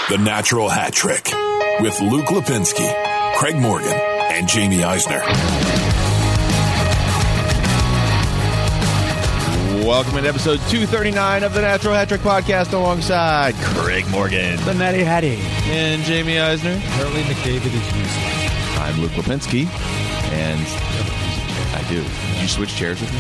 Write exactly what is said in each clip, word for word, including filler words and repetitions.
The Natural Hat Trick with Luke Lipinski, Craig Morgan, and Jamie Eisner. Welcome to episode two thirty-nine of the Natural Hat Trick podcast alongside Craig Morgan, the Natty Hattie, and Jamie Eisner. Apparently McDavid is useless. I'm Luke Lipinski, and I do. Did you switch chairs with me?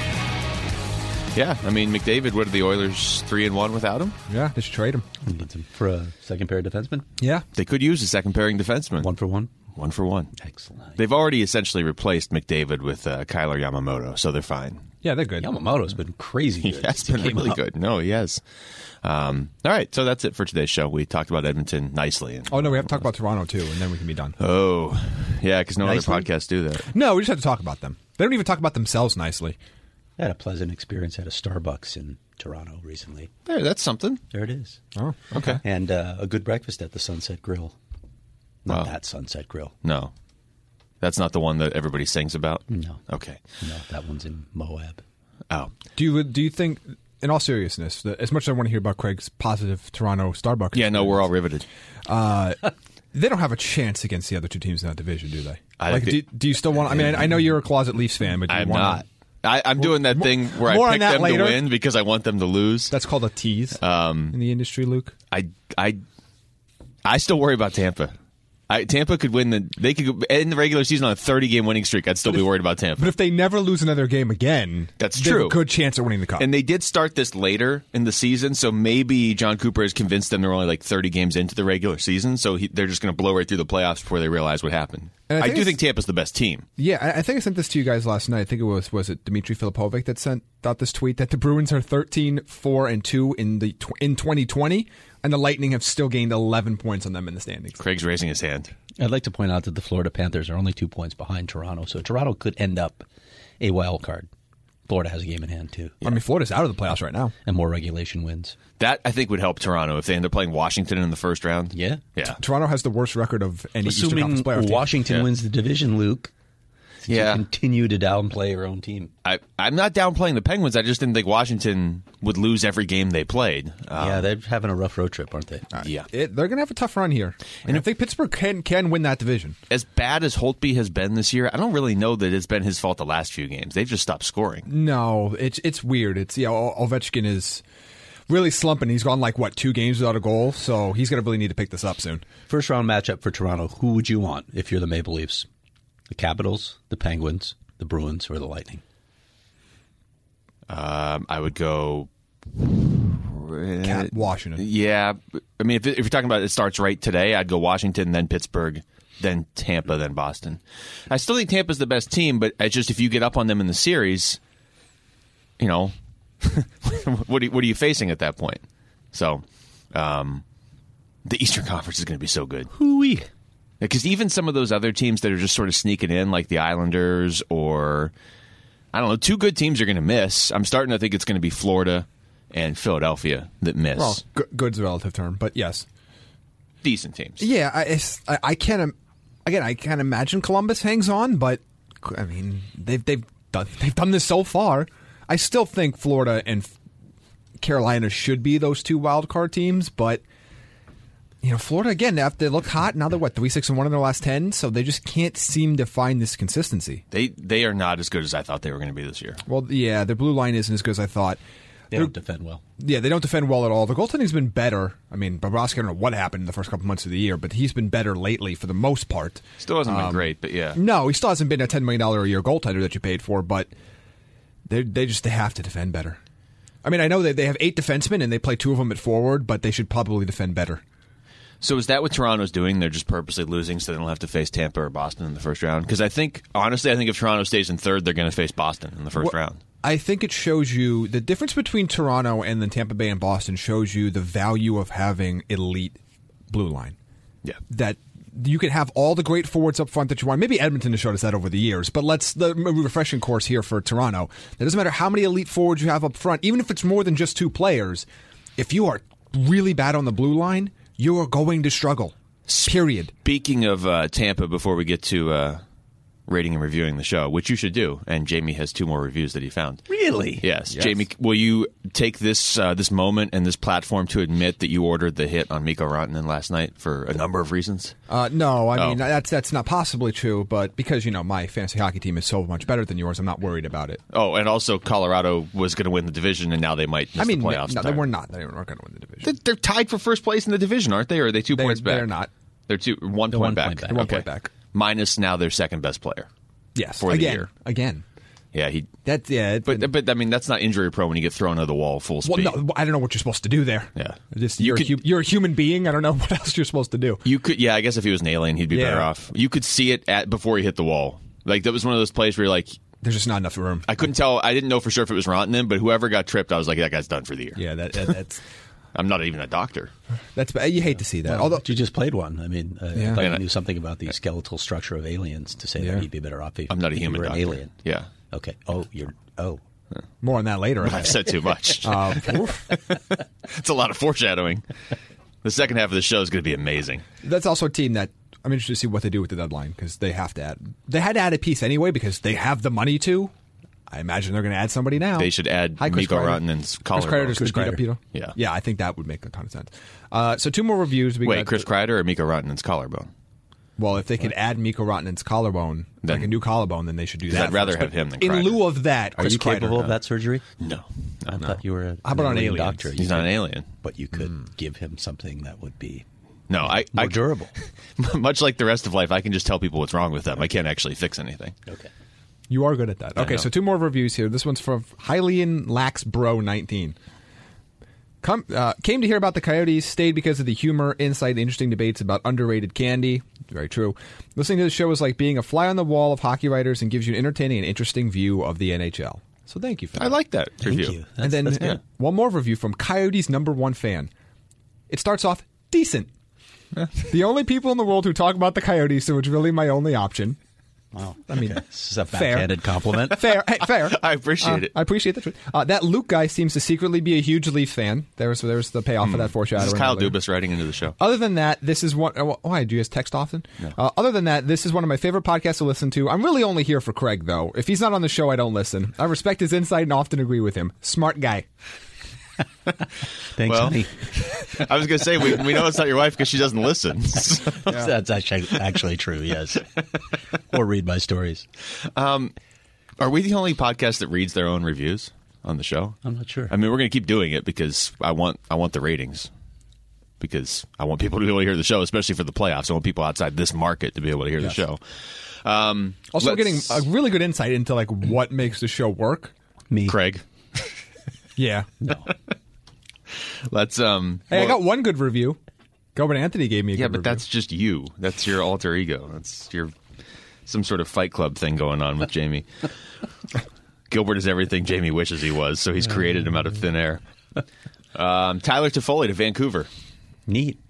Yeah, I mean, McDavid, what are the Oilers, three and one without him? Yeah, they should trade him. For a second pair of defensemen? Yeah. They could use a second pairing defenseman. One for one? One for one. Excellent. They've already essentially replaced McDavid with uh, Kyler Yamamoto, so they're fine. Yeah, they're good. Yamamoto's been crazy good. He has been really up. good. No, he has. Um, all right, so that's it for today's show. We talked about Edmonton nicely. And, oh, no, we have to talk about Toronto, too, and then we can be done. Oh, yeah, because no Nicely? other podcasts do that. No, we just have to talk about them. They don't even talk about themselves nicely. I had a pleasant experience at a Starbucks in Toronto recently. There, that's something. There it is. Oh, Okay. And uh, a good breakfast at the Sunset Grill. Not Wow. that Sunset Grill. No. That's not the one that everybody sings about? No. Okay. No, that one's in Moab. Oh. Do you do you think, in all seriousness, that as much as I want to hear about Craig's positive Toronto Starbucks, Yeah, no, we're all riveted. Uh, they don't have a chance against the other two teams in that division, do they? I like, think- do, do you still want? I mean, I know you're a closet Leafs fan, but do you I'm wanna, not. I, I'm doing that More- thing where more I on pick that them later. to win because I want them to lose. That's called a tease Um, in the industry, Luke. I, I, I still worry about Tampa. I, Tampa could win the. They could go, end the regular season on a thirty-game winning streak. I'd still be worried about Tampa. But if they never lose another game again, That's they have true. a good chance of winning the cup. And they did start this later in the season, so maybe John Cooper has convinced them they're only like thirty games into the regular season, so he, they're just going to blow right through the playoffs before they realize what happened. And I I, think do it's- think Tampa's the best team. Yeah, I I think I sent this to you guys last night. I think it was was it Dmitry Filipovic that sent out this tweet that the Bruins are thirteen, four, and two in the tw- in twenty twenty, and the Lightning have still gained eleven points on them in the standings. Craig's raising his hand. I'd like to point out that the Florida Panthers are only two points behind Toronto, so Toronto could end up a wild card. Florida has a game in hand, too. I mean, Florida's out of the playoffs right now. And more regulation wins. That, I think, would help Toronto if they end up playing Washington in the first round. Yeah. Yeah. Toronto has the worst record of any Eastern Assuming Conference playoff team. Washington Yeah. wins the division, Luke, Yeah. to continue to downplay your own team. I, I'm not downplaying the Penguins. I just didn't think Washington would lose every game they played. Um, yeah, they're having a rough road trip, aren't they? yeah. It, they're going to have a tough run here. And I think Pittsburgh can can win that division. As bad as Holtby has been this year, I don't really know that it's been his fault the last few games. They've just stopped scoring. No, it's it's weird. It's yeah, O- Ovechkin is really slumping. He's gone like what two games without a goal, so he's going to really need to pick this up soon. First round matchup for Toronto. Who would you want if you're the Maple Leafs? The Capitals, the Penguins, the Bruins, or the Lightning? Um, I would go. Cat Washington. Yeah, I mean, if, if you're talking about it starts right today, I'd go Washington, then Pittsburgh, then Tampa, then Boston. I still think Tampa's the best team, but it's just if you get up on them in the series, you know, what, are, what are you facing at that point? So, um, the Eastern Conference is going to be so good. Hooey. Because even some of those other teams that are just sort of sneaking in, like the Islanders or, I don't know, two good teams are going to miss. I'm starting to think it's going to be Florida and Philadelphia that miss. Well, g- good's a relative term, but yes. Decent teams. Yeah, I, it's, I, I can't. im- Again, I can't imagine Columbus hangs on, but I mean, they've they've done they've done this so far. I still think Florida and F- Carolina should be those two wild card teams, but you know, Florida again, after they look hot, now they're what three six and one in their last ten, so they just can't seem to find this consistency. They they are not as good as I thought they were going to be this year. Well, yeah, their blue line isn't as good as I thought. They They're- don't defend well. Yeah, they don't defend well at all. The goaltending's been better. I mean, Bobrovsky, I don't know what happened in the first couple months of the year, but he's been better lately for the most part. Still hasn't Um, been great, but yeah. No, he still hasn't been a ten million dollars a year goaltender that you paid for, but they they just they have to defend better. I mean, I know that they have eight defensemen and they play two of them at forward, but they should probably defend better. So is that what Toronto's doing? They're just purposely losing so they don't have to face Tampa or Boston in the first round? Because I think, honestly, I think if Toronto stays in third, they're going to face Boston in the first Well, round. I think it shows you the difference between Toronto and then Tampa Bay and Boston shows you the value of having elite blue line. Yeah. That you can have all the great forwards up front that you want. Maybe Edmonton has showed us that over the years, but let's the refreshing course here for Toronto. It doesn't matter how many elite forwards you have up front, even if it's more than just two players. If you are really bad on the blue line, you are going to struggle. Period. Speaking of uh, Tampa, before we get to uh, rating and reviewing the show, which you should do. And Jamie has two more reviews that he found. Really? Yes. Yes. Jamie, will you take this uh, this moment and this platform to admit that you ordered the hit on Mikko Rantanen last night for a number of reasons? Uh, no, I Oh. mean that's that's not possibly true, but because you know my fantasy hockey team is so much better than yours, I'm not worried about it. Oh, and also Colorado was going to win the division, and now they might miss I mean, the playoffs. no, they entirely. were not. They weren't going to win the division. They're, they're tied for first place in the division, aren't they? Or are they two They- points back? they're not. They're two one They're point one back. point back. They're one Okay. point back. Minus now their second best player. Yes, For the again, year. again. Yeah, he. That's yeah. It, But but I mean that's not injury prone when you get thrown to the wall full well, speed. no, I don't know what you're supposed to do there. Yeah. Just, You you're, could- a hu- you're a human being. I don't know what else you're supposed to do. You could, yeah. I guess if he was an alien, he'd be Yeah. better off. You could see it at before he hit the wall. Like that was one of those plays where you're like, There's just not enough room. I couldn't tell. I didn't know for sure if it was Rantanen, but whoever got tripped, I was like, that guy's done for the year. Yeah, that, that that's I'm not even a doctor. that's you hate to see that. Well, Although you just played one. I mean, uh, Yeah. I thought And I- you knew something about the skeletal structure of aliens to say Yeah. that he'd be better off if, I'm not a if you human were an doctor. alien. Yeah, Okay. Oh, you're. Oh. more on that later. I I've guess. said too much. Uh, oof. It's a lot of foreshadowing. The second half of the show is going to be amazing. That's also a team that I'm interested to see what they do with the deadline because they have to add. They had to add a piece anyway because they have the money to. I imagine they're going to add somebody now. They should add Hi, Chris Mikko Kreider. Rantanen's Chris collarbone. Kreider's going to beat up Peter. Yeah. yeah, I think that would make a ton of sense. Uh, so two more reviews. We Wait, got- Chris Kreider or Mikko Rantanen's collarbone? Well, if they could add Mikko Rantanen's collarbone, Then- like a new collarbone, then they should do 'Cause that. I'd rather first. have But him than in Kreider. lieu of that, Are Chris you capable Kreider. of that surgery? No, I thought you were a, How about an on alien aliens? doctor. You he's not could- an alien. But you could give him something that would be No, I, more I durable. much like the rest of life, I can just tell people what's wrong with them. I can't actually fix anything. Okay. You are good at that. Okay, know. so two more reviews here. This one's from Hylian Lax Bro nineteen. Come, uh, came to hear about the Coyotes, stayed because of the humor, insight, and interesting debates about underrated candy. Very true. Listening to the show is like being a fly on the wall of hockey writers and gives you an entertaining and interesting view of the N H L. So thank you for that. I like that Thank review. you. That's, and then that's uh, good. one more review from Coyotes' number one fan. It starts off decent. The only people in the world who talk about the Coyotes, so it's really my only option. Wow. I mean, Okay. This is a fair. backhanded compliment. Fair, hey, fair. I appreciate Uh, it. I appreciate the truth. Uh, that Luke guy seems to secretly be a huge Leaf fan. There's there's the payoff of that foreshadowing. This is Kyle earlier. Dubas writing into the show. Other than that, this is one. Uh, why do you guys text often? Uh, other than that, this is one of my favorite podcasts to listen to. I'm really only here for Craig, though. If he's not on the show, I don't listen. I respect his insight and often agree with him. Smart guy. Thanks, Well, honey. I was going to say, we, we know it's not your wife because she doesn't listen. That's actually actually true. Yes. Or read my stories. Are we the only podcast that reads their own reviews on the show? I'm not sure. I mean, we're going to keep doing it because I want I want the ratings. Because I want people to be able to hear the show, especially for the playoffs. I want people outside this market to be able to hear Yes. the show. Um, Also, we're getting let's- a really good insight into like what makes the show work. Me. Craig. Yeah. No. Let's um. Hey, I well- got one good review. Gilbert Anthony gave me a Yeah, good but review. that's just you. That's your alter ego. That's your some sort of Fight Club thing going on with Jamie. Gilbert is everything Jamie wishes he was, so he's created him out of thin air. Um, Tyler Toffoli to Vancouver. Neat.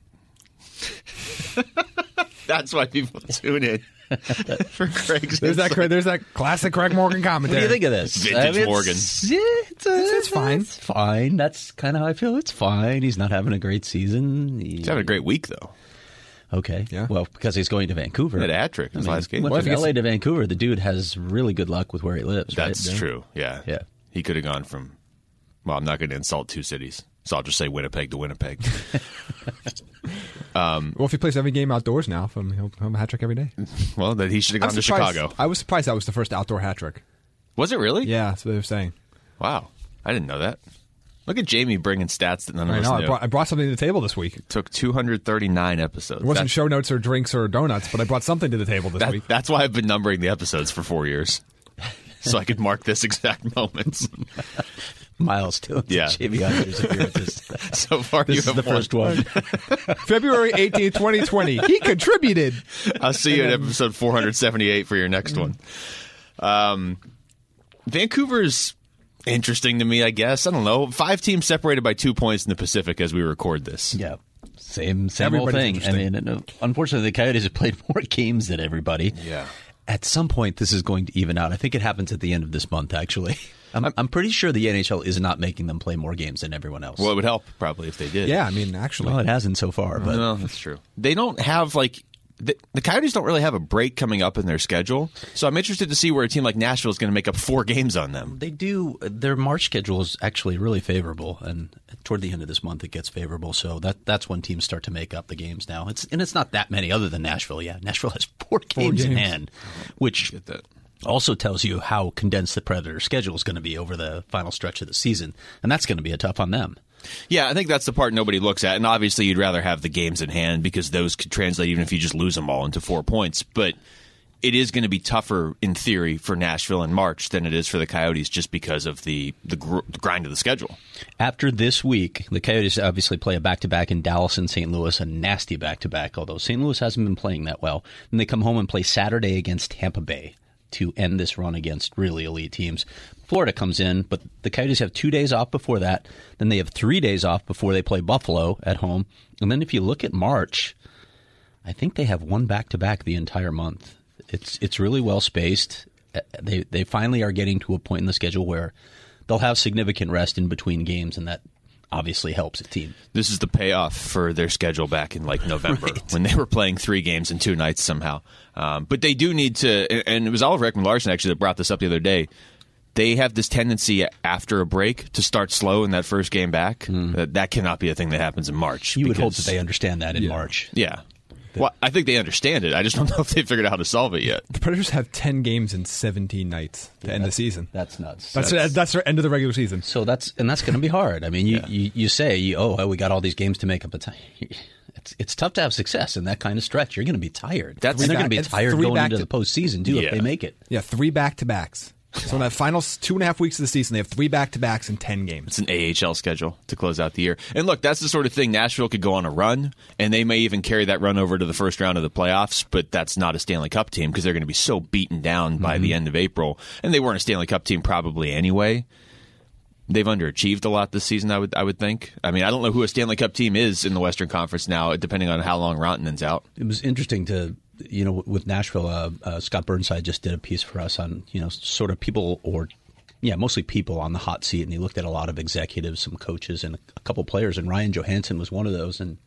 That's why people tune in for Craig's. There's that. insight. Cra- There's that classic Craig Morgan What commentary. do you think of this? Vintage Morgan. It's, yeah, it's, uh, it's fine. It's fine. That's kind of how I feel. It's fine. He's not having a great season. He- He's having a great week though. Okay. Yeah. Well, because he's going to Vancouver. He had a hat trick in his last game. Went What if from he gets- L A to Vancouver. The dude has really good luck with where he lives. That's right? true. Yeah. Yeah. He could have gone from. Well, I'm not going to insult two cities, so I'll just say Winnipeg to Winnipeg. Well, if he plays every game outdoors now, from he'll he'll have a hat trick every day. Well, then he should have I'm gone to surprised- Chicago. I was surprised that was the first outdoor hat trick. Was it really? Yeah, that's what they were saying. Wow. I didn't know that. Look at Jamie bringing stats that none of I us know. I knew. brought, I brought something to the table this week. It Took two hundred thirty-nine episodes. wasn't That- show notes or drinks or donuts, but I brought something to the table this that- week. that's why I've been numbering the episodes for four years. So I could mark this exact moment. Milestones. Yeah. Jamie Hunter's appearances. So far, This you is have the won. first one. February eighteenth, twenty twenty. He contributed. I'll see you at episode four hundred seventy-eight for your next one. Um, Vancouver's interesting to me, I guess. I don't know. Five teams separated by two points in the Pacific as we record this. Yeah. Same same old Everybody's thing. I interesting. mean, and, uh, unfortunately, the Coyotes have played more games than everybody. Yeah. At some point, this is going to even out. I think it happens at the end of this month, actually. I'm, I'm pretty sure the N H L is not making them play more games than everyone else. Well, it would help probably if they did. Yeah, I mean, actually. Well, it hasn't so far, but No, that's true. They don't have like the, the Coyotes don't really have a break coming up in their schedule, so I'm interested to see where a team like Nashville is going to make up four games on them. They do. Their March schedule is actually really favorable, and toward the end of this month it gets favorable. So that that's when teams start to make up the games now. It's and it's not that many other than Nashville. Yeah, Nashville has four games, four games. in hand, which Get that. also tells you how condensed the Predator schedule is going to be over the final stretch of the season, and that's going to be a tough on them. Yeah, I think that's the part nobody looks at, and obviously you'd rather have the games in hand because those could translate even if you just lose them all into four points. But it is going to be tougher in theory for Nashville in March than it is for the Coyotes just because of the, the, gr- the grind of the schedule. After this week, the Coyotes obviously play a back-to-back in Dallas and Saint Louis, a nasty back-to-back, although Saint Louis hasn't been playing that well. Then they come home and play Saturday against Tampa Bay to end this run against really elite teams. Florida comes in, but the Coyotes have two days off before that. Then they have three days off before they play Buffalo at home. And then if you look at March, I think they have one back-to-back the entire month. It's it's really well spaced. They they finally are getting to a point in the schedule where they'll have significant rest in between games, and that obviously helps a team. This is the payoff for their schedule back in like November Right. when they were playing three games in two nights somehow. Um, but they do need to, and it was Oliver Ekman-Larsson actually that brought this up the other day. They have this tendency after a break to start slow in that first game back. Mm. That, that cannot be a thing that happens in March. You because, would hope that they understand that in yeah. March. Yeah. Well, I think they understand it. I just don't know if they figured out how to solve it yet. The Predators have ten games in seventeen nights to yeah, end the season. That's nuts. That's that's, that's their end of the regular season. So that's and that's going to be hard. I mean, you, Yeah. you, you say, you, oh, well, we got all these games to make up a time. It's it's tough to have success in that kind of stretch. You're going to be tired. That's- and they're going to be It's tired three going back into to- the postseason too Yeah. if they make it. Yeah, three back-to-backs. So in that final two and a half weeks of the season, they have three back-to-backs and ten games. It's an A H L schedule to close out the year. And look, that's the sort of thing Nashville could go on a run, and they may even carry that run over to the first round of the playoffs, but that's not a Stanley Cup team because they're going to be so beaten down by mm-hmm. the end of April. And they weren't a Stanley Cup team probably anyway. They've underachieved a lot this season, I would I would think. I mean, I don't know who a Stanley Cup team is in the Western Conference now, depending on how long Rantanen's out. It was interesting to, you know, with Nashville, uh, uh, Scott Burnside just did a piece for us on, you know, sort of people or, yeah, mostly people on the hot seat. And he looked at a lot of executives, some coaches, and a couple players. And Ryan Johansson was one of those. And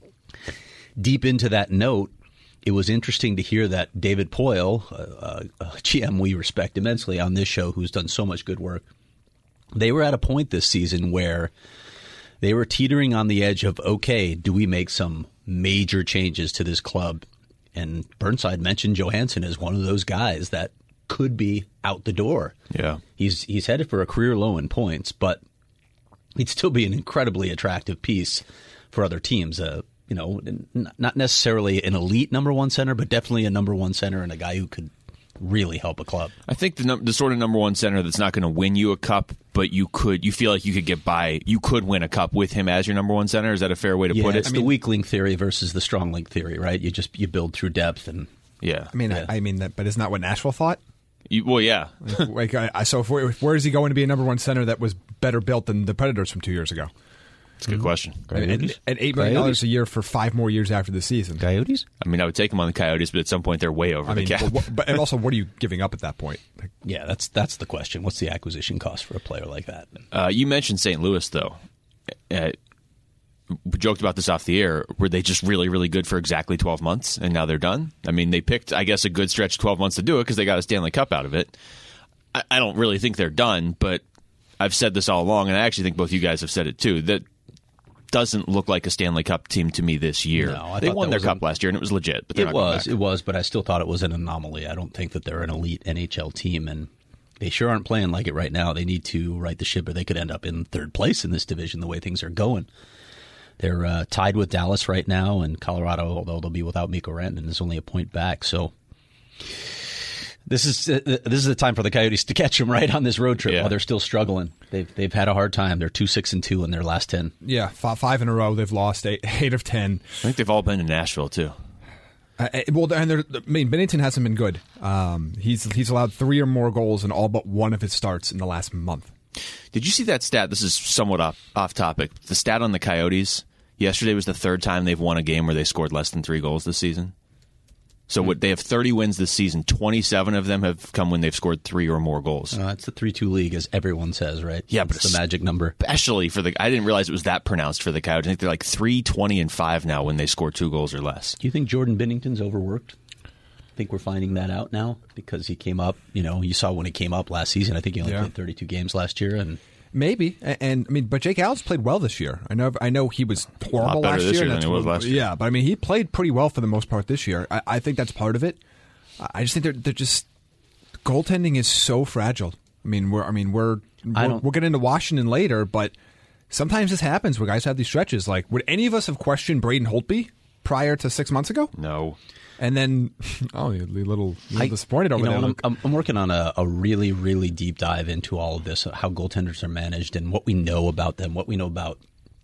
deep into that note, it was interesting to hear that David Poyle, uh, a G M we respect immensely on this show, who's done so much good work, they were at a point this season where they were teetering on the edge of, okay, do we make some major changes to this club? And Burnside mentioned Johansson as one of those guys that could be out the door. Yeah. He's he's headed for a career low in points, but he'd still be an incredibly attractive piece for other teams. Uh, you know, n- not necessarily an elite number one center, but definitely a number one center and a guy who could really help a club. I think the num- the sort of number one center that's not going to win you a cup, but you could you feel like you could get by, you could win a cup with him as your number one center. Is that a fair way to yeah, put it? It's I mean, the weak link theory versus the strong link theory, right? You just you build through depth and yeah. I mean, yeah. I, I mean that, but isn't that what Nashville thought? You, well, yeah. like, I, so if where, where is he going to be a number one center that was better built than the Predators from two years ago? That's a good question. I mean, at, at eight million dollars a year for five more years after the season. Coyotes? I mean, I would take him on the Coyotes, but at some point they're way over I the mean, cap. but, what, but and also, what are you giving up at that point? Like, Yeah, that's that's the question. What's the acquisition cost for a player like that? Uh, you mentioned Saint Louis, though. Uh, we joked about this off the air. Were they just really, really good for exactly twelve months, and now they're done? I mean, they picked, I guess, a good stretch twelve months to do it because they got a Stanley Cup out of it. I, I don't really think they're done, but I've said this all along, and I actually think both you guys have said it too, that doesn't look like a Stanley Cup team to me this year. No, I they thought won that their was cup a- last year, and it was legit. But they're It not going was, back. it was, but I still thought it was an anomaly. I don't think that they're an elite N H L team, and they sure aren't playing like it right now. They need to right the ship, or they could end up in third place in this division the way things are going. They're uh, tied with Dallas right now, and Colorado, although they'll be without Mikko Rantanen, is only a point back. So this is uh, this is the time for the Coyotes to catch them right on this road trip Yeah. while they're still struggling. They've they've had a hard time. They're two six and two in their last ten. yeah, five, five in a row. They've lost eight, eight of ten. I think they've all been in Nashville, too. Uh, uh, well, and they're, I mean, Binnington hasn't been good. Um, he's he's allowed three or more goals in all but one of his starts in the last month. Did you see that stat? This is somewhat off, off topic. The stat on the Coyotes, yesterday was the third time they've won a game where they scored less than three goals this season. So what they have thirty wins this season. twenty-seven of them have come when they've scored three or more goals. Uh, it's the three two league, as everyone says, right? Yeah, but it's the magic number. Especially for the, I didn't realize it was that pronounced for the Coyotes. I think they're like three, twenty, and five now when they score two goals or less. Do you think Jordan Binnington's overworked? I think we're finding that out now because he came up. You know, you saw when he came up last season. I think he only Yeah. played thirty-two games last year, and Maybe, and, and I mean, but Jake Allen's played well this year. I know, I know he was horrible better last this year. year and than that's he was what- last year. Yeah, but I mean, he played pretty well for the most part this year. I, I think that's part of it. I just think they're they're just goaltending is so fragile. I mean, we're I mean we're I we're, don't- we'll get into Washington later, but sometimes this happens where guys have these stretches. Like, would any of us have questioned Braden Holtby prior to six months ago? No. And then, oh, you're a little, little I- disappointed over you know, there. I'm, Luke. I'm, I'm working on a, a really, really deep dive into all of this, how goaltenders are managed and what we know about them, what we know about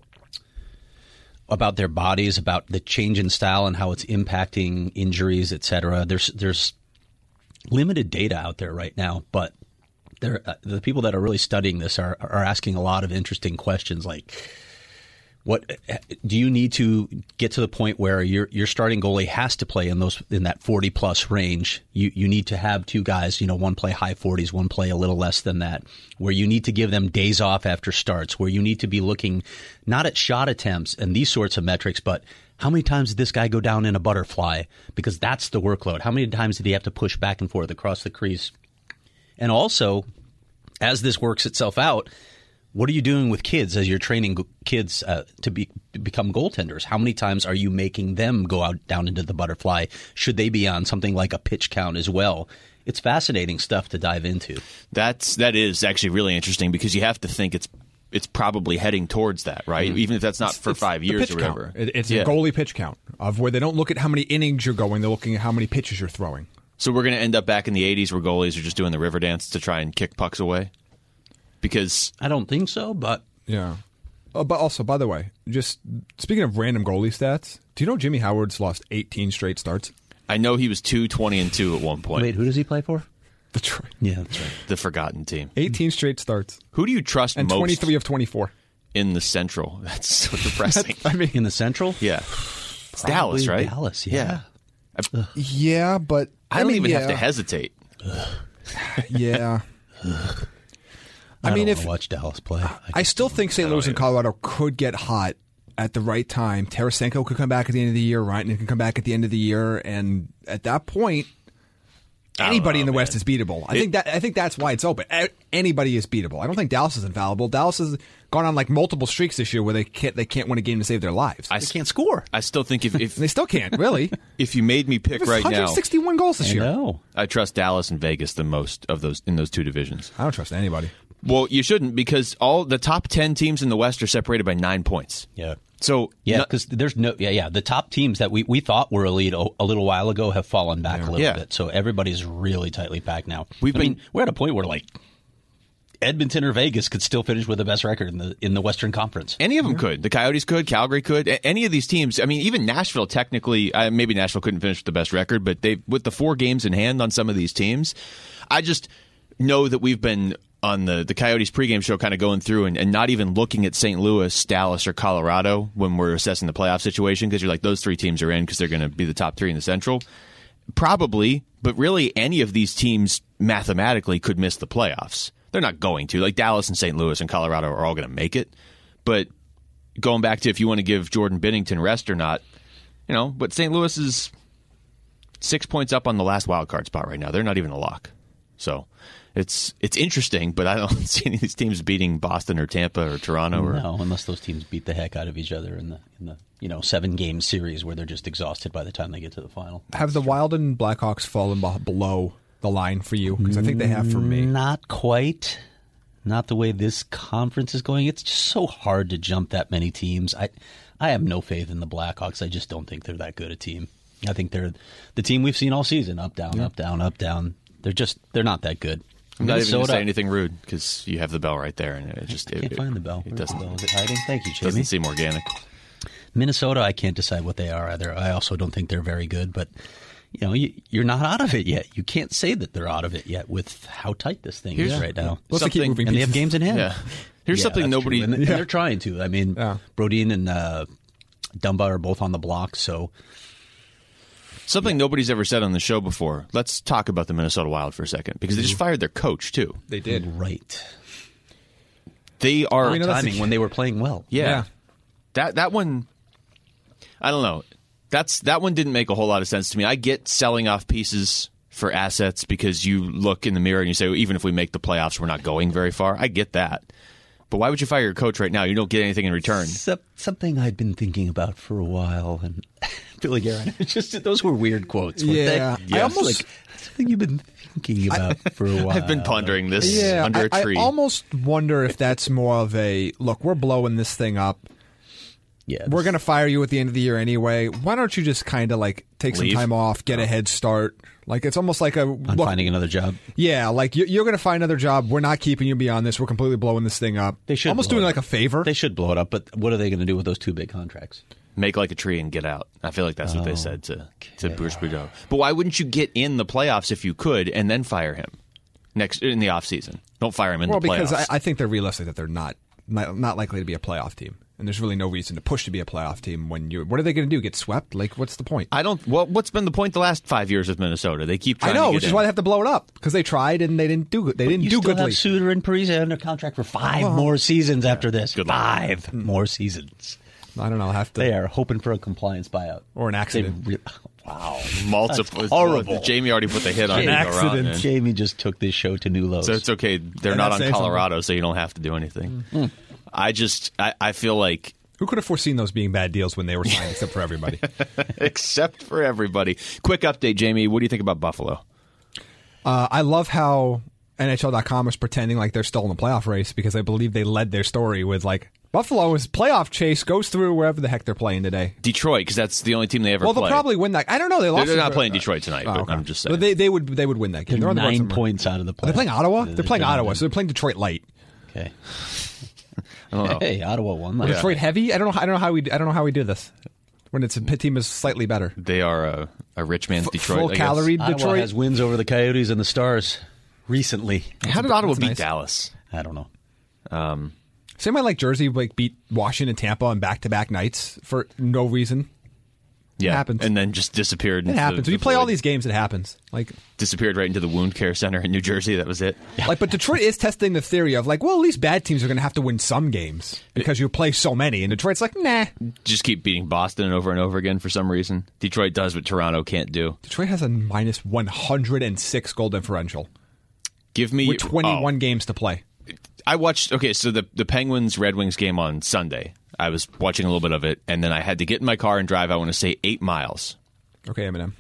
about their bodies, about the change in style and how it's impacting injuries, et cetera. There's there's limited data out there right now, but there uh, the people that are really studying this are are asking a lot of interesting questions like, what do you need to get to the point where your your starting goalie has to play in those in that forty plus range? You you need to have two guys, you know, one play high forties, one play a little less than that. Where you need to give them days off after starts. Where you need to be looking not at shot attempts and these sorts of metrics, but how many times did this guy go down in a butterfly? Because that's the workload. How many times did he have to push back and forth across the crease? And also, as this works itself out, what are you doing with kids as you're training g- kids uh, to be to become goaltenders? How many times are you making them go out down into the butterfly? Should they be on something like a pitch count as well? It's fascinating stuff to dive into. That's that is actually really interesting because you have to think it's it's probably heading towards that, right? Even if that's not for It's five the years pitch or whatever. count. It- it's Yeah. a goalie pitch count of where they don't look at how many innings you're going; they're looking at how many pitches you're throwing. So we're going to end up back in the eighties where goalies are just doing the river dance to try and kick pucks away? Because I don't think so, but Yeah. Oh, but also, by the way, just speaking of random goalie stats, do you know Jimmy Howard's lost eighteen straight starts? I know he was two twenty and two at one point. wait, who does he play for? Detroit. Yeah, that's right. The forgotten team. eighteen straight starts Who do you trust and most twenty-three of twenty-four. in the Central? That's so depressing. I mean, In the Central? yeah. It's Dallas, Probably right? Dallas, yeah. yeah. yeah, but I don't mean, even yeah, have to hesitate. Yeah. I, I mean, don't if wanna watch Dallas play. I still think Saint Louis and Colorado could get hot at the right time. Tarasenko could come back at the end of the year. Ryan can come back at the end of the year, and at that point, I don't anybody know, in the man. West is beatable. I It- think that I think that's why it's open. A- Anybody is beatable. I don't think Dallas is infallible. Dallas has gone on like multiple streaks this year where they can't they can't win a game to save their lives. I They s- can't score. I still think if if, they still can't really. if you made me pick There's right one hundred now, sixty-one goals this I year. know. I trust Dallas and Vegas the most of those in those two divisions. I don't trust anybody. Well, you shouldn't because all the top ten teams in the West are separated by nine points. Yeah. So Yeah, no- because there's no, yeah, yeah. The top teams that we, we thought were elite a, a little while ago have fallen back a little Yeah. bit. So everybody's really tightly packed now. We've I mean, been- we're at a point where like Edmonton or Vegas could still finish with the best record in the in the Western Conference. any of them could. The Coyotes could. Calgary could. A- Any of these teams. I mean, even Nashville. Technically, uh, maybe Nashville couldn't finish with the best record, but they with the four games in hand on some of these teams. I just know that we've been on the the Coyotes pregame show, kind of going through and, and not even looking at Saint Louis, Dallas, or Colorado when we're assessing the playoff situation because you're like those three teams are in because they're going to be the top three in the Central. Probably, but really, any of these teams mathematically could miss the playoffs. They're not going to. Like Dallas and Saint Louis and Colorado are all going to make it. But going back to if you want to give Jordan Binnington rest or not, you know, but Saint Louis is six points up on the last wild card spot right now. They're not even a lock. So it's it's interesting, but I don't see any of these teams beating Boston or Tampa or Toronto. Or, No, unless those teams beat the heck out of each other in the in the you know seven game series where they're just exhausted by the time they get to the final. Have the Wild and Blackhawks fallen b- below the line for you? Because I think they have for me. Not quite. Not the way this conference is going. It's just so hard to jump that many teams. I I have no faith in the Blackhawks. I just don't think they're that good a team. I think they're the team we've seen all season. Up, down, up, down, up, down. They're just they're not that good. I'm not even going to Minnesota- say anything rude because you have the bell right there, and it just I it, can't it- find the bell. It Where's the doesn't bell? Is it hiding? Thank you, Jamie. doesn't seem organic. Minnesota, I can't decide what they are either. I also don't think they're very good, but you know, you, you're not out of it yet. You can't say that they're out of it yet with how tight this thing Here's- is right now. Let's keep Something- moving And they have pieces. games in hand. Yeah. Here's Yeah, something that's nobody. true. And, and they're trying to. I mean, Yeah. Brodin and uh, Dumba are both on the block, so Something nobody's ever said on the show before. Let's talk about the Minnesota Wild for a second, because they just fired their coach, too. They did. Right. They are... I mean, that's Timing the- when they were playing well. Yeah. Yeah. That that one, I don't know. That's that one didn't make a whole lot of sense to me. I get selling off pieces for assets because you look in the mirror and you say, well, even if we make the playoffs, we're not going very far. I get that. But why would you fire your coach right now? You don't get anything in return. Some- Something I'd been thinking about for a while, and Billy Guerin. It's just those were weird quotes. Weren't Yeah. they? I Yes. almost- like something you've been thinking about for a while. I've been pondering this Yeah, under I, a tree. I almost wonder if that's more of a look. We're blowing this thing up. Yeah, We're going to fire you at the end of the year anyway. Why don't you just kind of like take some Leave? time off, get a head start? Like it's almost like a on look, finding another job. yeah, like you- you're going to find another job. We're not keeping you beyond this. We're completely blowing this thing up. They should almost blow doing it like up. a favor. They should blow it up, but what are they going to do with those two big contracts? Make like a tree and get out. I feel like that's what they Oh, said to, to Bruce Boudreau. But why wouldn't you get in the playoffs if you could and then fire him next in the offseason? Don't fire him in well, the playoffs. because I, I think they're realistic that they're not, not not likely to be a playoff team, and there's really no reason to push to be a playoff team when you. What are they going to do? Get swept? Like what's the point? I don't. Well, what's been the point the last five years with Minnesota? They keep trying I know, to get which is in. why they have to blow it up because they tried and they didn't do good. They didn't You do still goodly. have Suter and Parise under contract for five Well, more seasons after this. Good luck. Five more seasons. I don't know. I'll have to They are hoping for a compliance buyout or an They accident. re- wow, multiple. That's horrible. Jamie already put the hit on An Nico accident. Rotten, and- Jamie just took this show to new lows. So it's okay. They're And not that's on saying Colorado, so you don't have to do anything. I just, I, I feel like, Who could have foreseen those being bad deals when they were signed, except for everybody? except for everybody. Quick update, Jamie. What do you think about Buffalo? Uh, I love how N H L dot com is pretending like they're still in the playoff race because I believe they led their story with like Buffalo's playoff chase goes through wherever the heck they're playing today. Detroit, because that's the only team they ever Well, play. they'll probably win that. I don't know. They They're, lost. they're to- not playing Detroit tonight, Oh, but okay. I'm just saying. But they they would they would win that game. They're They're on the road nine somewhere. points out of the Are they playoffs. playing Ottawa? They're They're playing down Ottawa, there. so they're playing Detroit light. Okay. I don't know. Hey, Ottawa won. last Detroit night. heavy. I don't know. I don't know how we. I don't know how we do this when it's a pit team is slightly better. They are a, a rich man's F- Detroit. full I guess. calorie Ottawa Detroit. has wins over the Coyotes and the Stars recently. How did Ottawa That's beat nice. Dallas? I don't know. Same way like Jersey like beat Washington and Tampa on back to back nights for no reason. Yeah, happens. and then just disappeared. It into happens. The, When you the play all void. these games, it happens. Like disappeared right into the wound care center in New Jersey. That was it. Like, but Detroit is testing the theory of like, well, at least bad teams are going to have to win some games because you play so many. And Detroit's like, nah. Just keep beating Boston over and over again for some reason. Detroit does what Toronto can't do. Detroit has a minus one hundred six goal differential Give me with twenty-one oh. games to play. I watched. Okay, so the the Penguins Red Wings game on Sunday. I was watching a little bit of it, and then I had to get in my car and drive. I want to say eight miles. Okay, Eminem.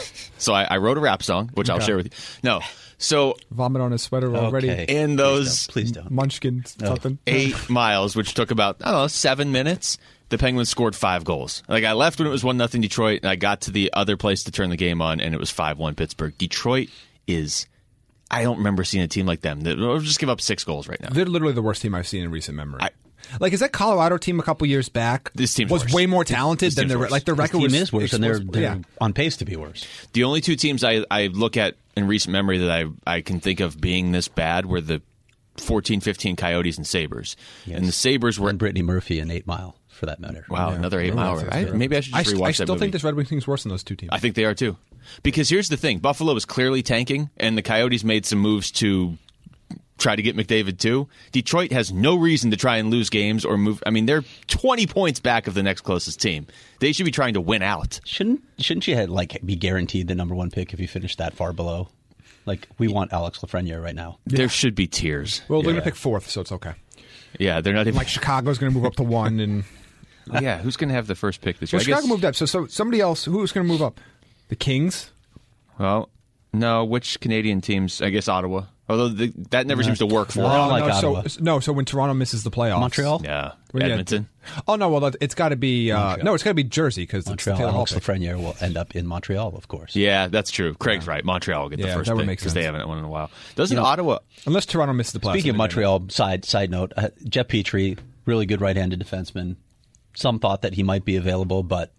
So I, I wrote a rap song, which I'll Okay. share with you. No, so Vomit on his sweater already. Okay. in Please those don't. Please don't. Munchkin something. eight miles, which took about I don't know seven minutes, the Penguins scored five goals. Like I left when it was one nothing Detroit, and I got to the other place to turn the game on, and it was five one Pittsburgh. Detroit is. I don't remember seeing a team like them. They'll just give up six goals right now. They're literally the worst team I've seen in recent memory. I- like, is that Colorado team a couple years back? This team's was worse. way more talented This than team's their worse. like their This record team was is worse, and they're, explosive. they're yeah. on pace to be worse. The only two teams I, I look at in recent memory that I, I can think of being this bad were the fourteen fifteen Coyotes and Sabres. And the Sabres were. And Brittany Murphy in Eight Mile, for that matter. Wow, Yeah. another eight Remember mile. that, I, that's maybe I should I, just st- rewatch I still that movie. think this Red Wings team's worse than those two teams. I think they are too. Because here's the thing Buffalo is clearly tanking, and the Coyotes made some moves to try to get McDavid too. Detroit has no reason to try and lose games or move. I mean, they're twenty points back of the next closest team. They should be trying to win out. Shouldn't shouldn't you have, like be guaranteed the number one pick if you finish that far below? Like we want Alex Lafreniere right now. There should be tears. well, they're Yeah. going to pick fourth, so it's okay. Yeah, they're not even. Like Chicago's going to move up to one, and yeah, who's going to have the first pick this year? well, I Chicago guess- moved up. So, so somebody else who's going to move up? The Kings. Well, no. Which Canadian teams? I guess Ottawa. Although the, that never seems to work for No. I them. don't like no, Ottawa. so no. So when Toronto misses the playoffs, Montreal? Yeah, Well, yeah. Edmonton. Oh no, well that- it's got to be uh, Montreal. no, it's got to be Jersey because it's the Montreal, Taylor Hall Alex pick. Lafreniere will end up in Montreal, of course. Yeah, that's true. Craig's right. Montreal will get the Yeah, first that would pick make because they sense. haven't won in a while. Doesn't You know- Ottawa? Unless Toronto misses the playoffs. Speaking of then they do. Montreal, side side note, uh, Jeff Petrie, really good right-handed defenseman. Some thought that he might be available, but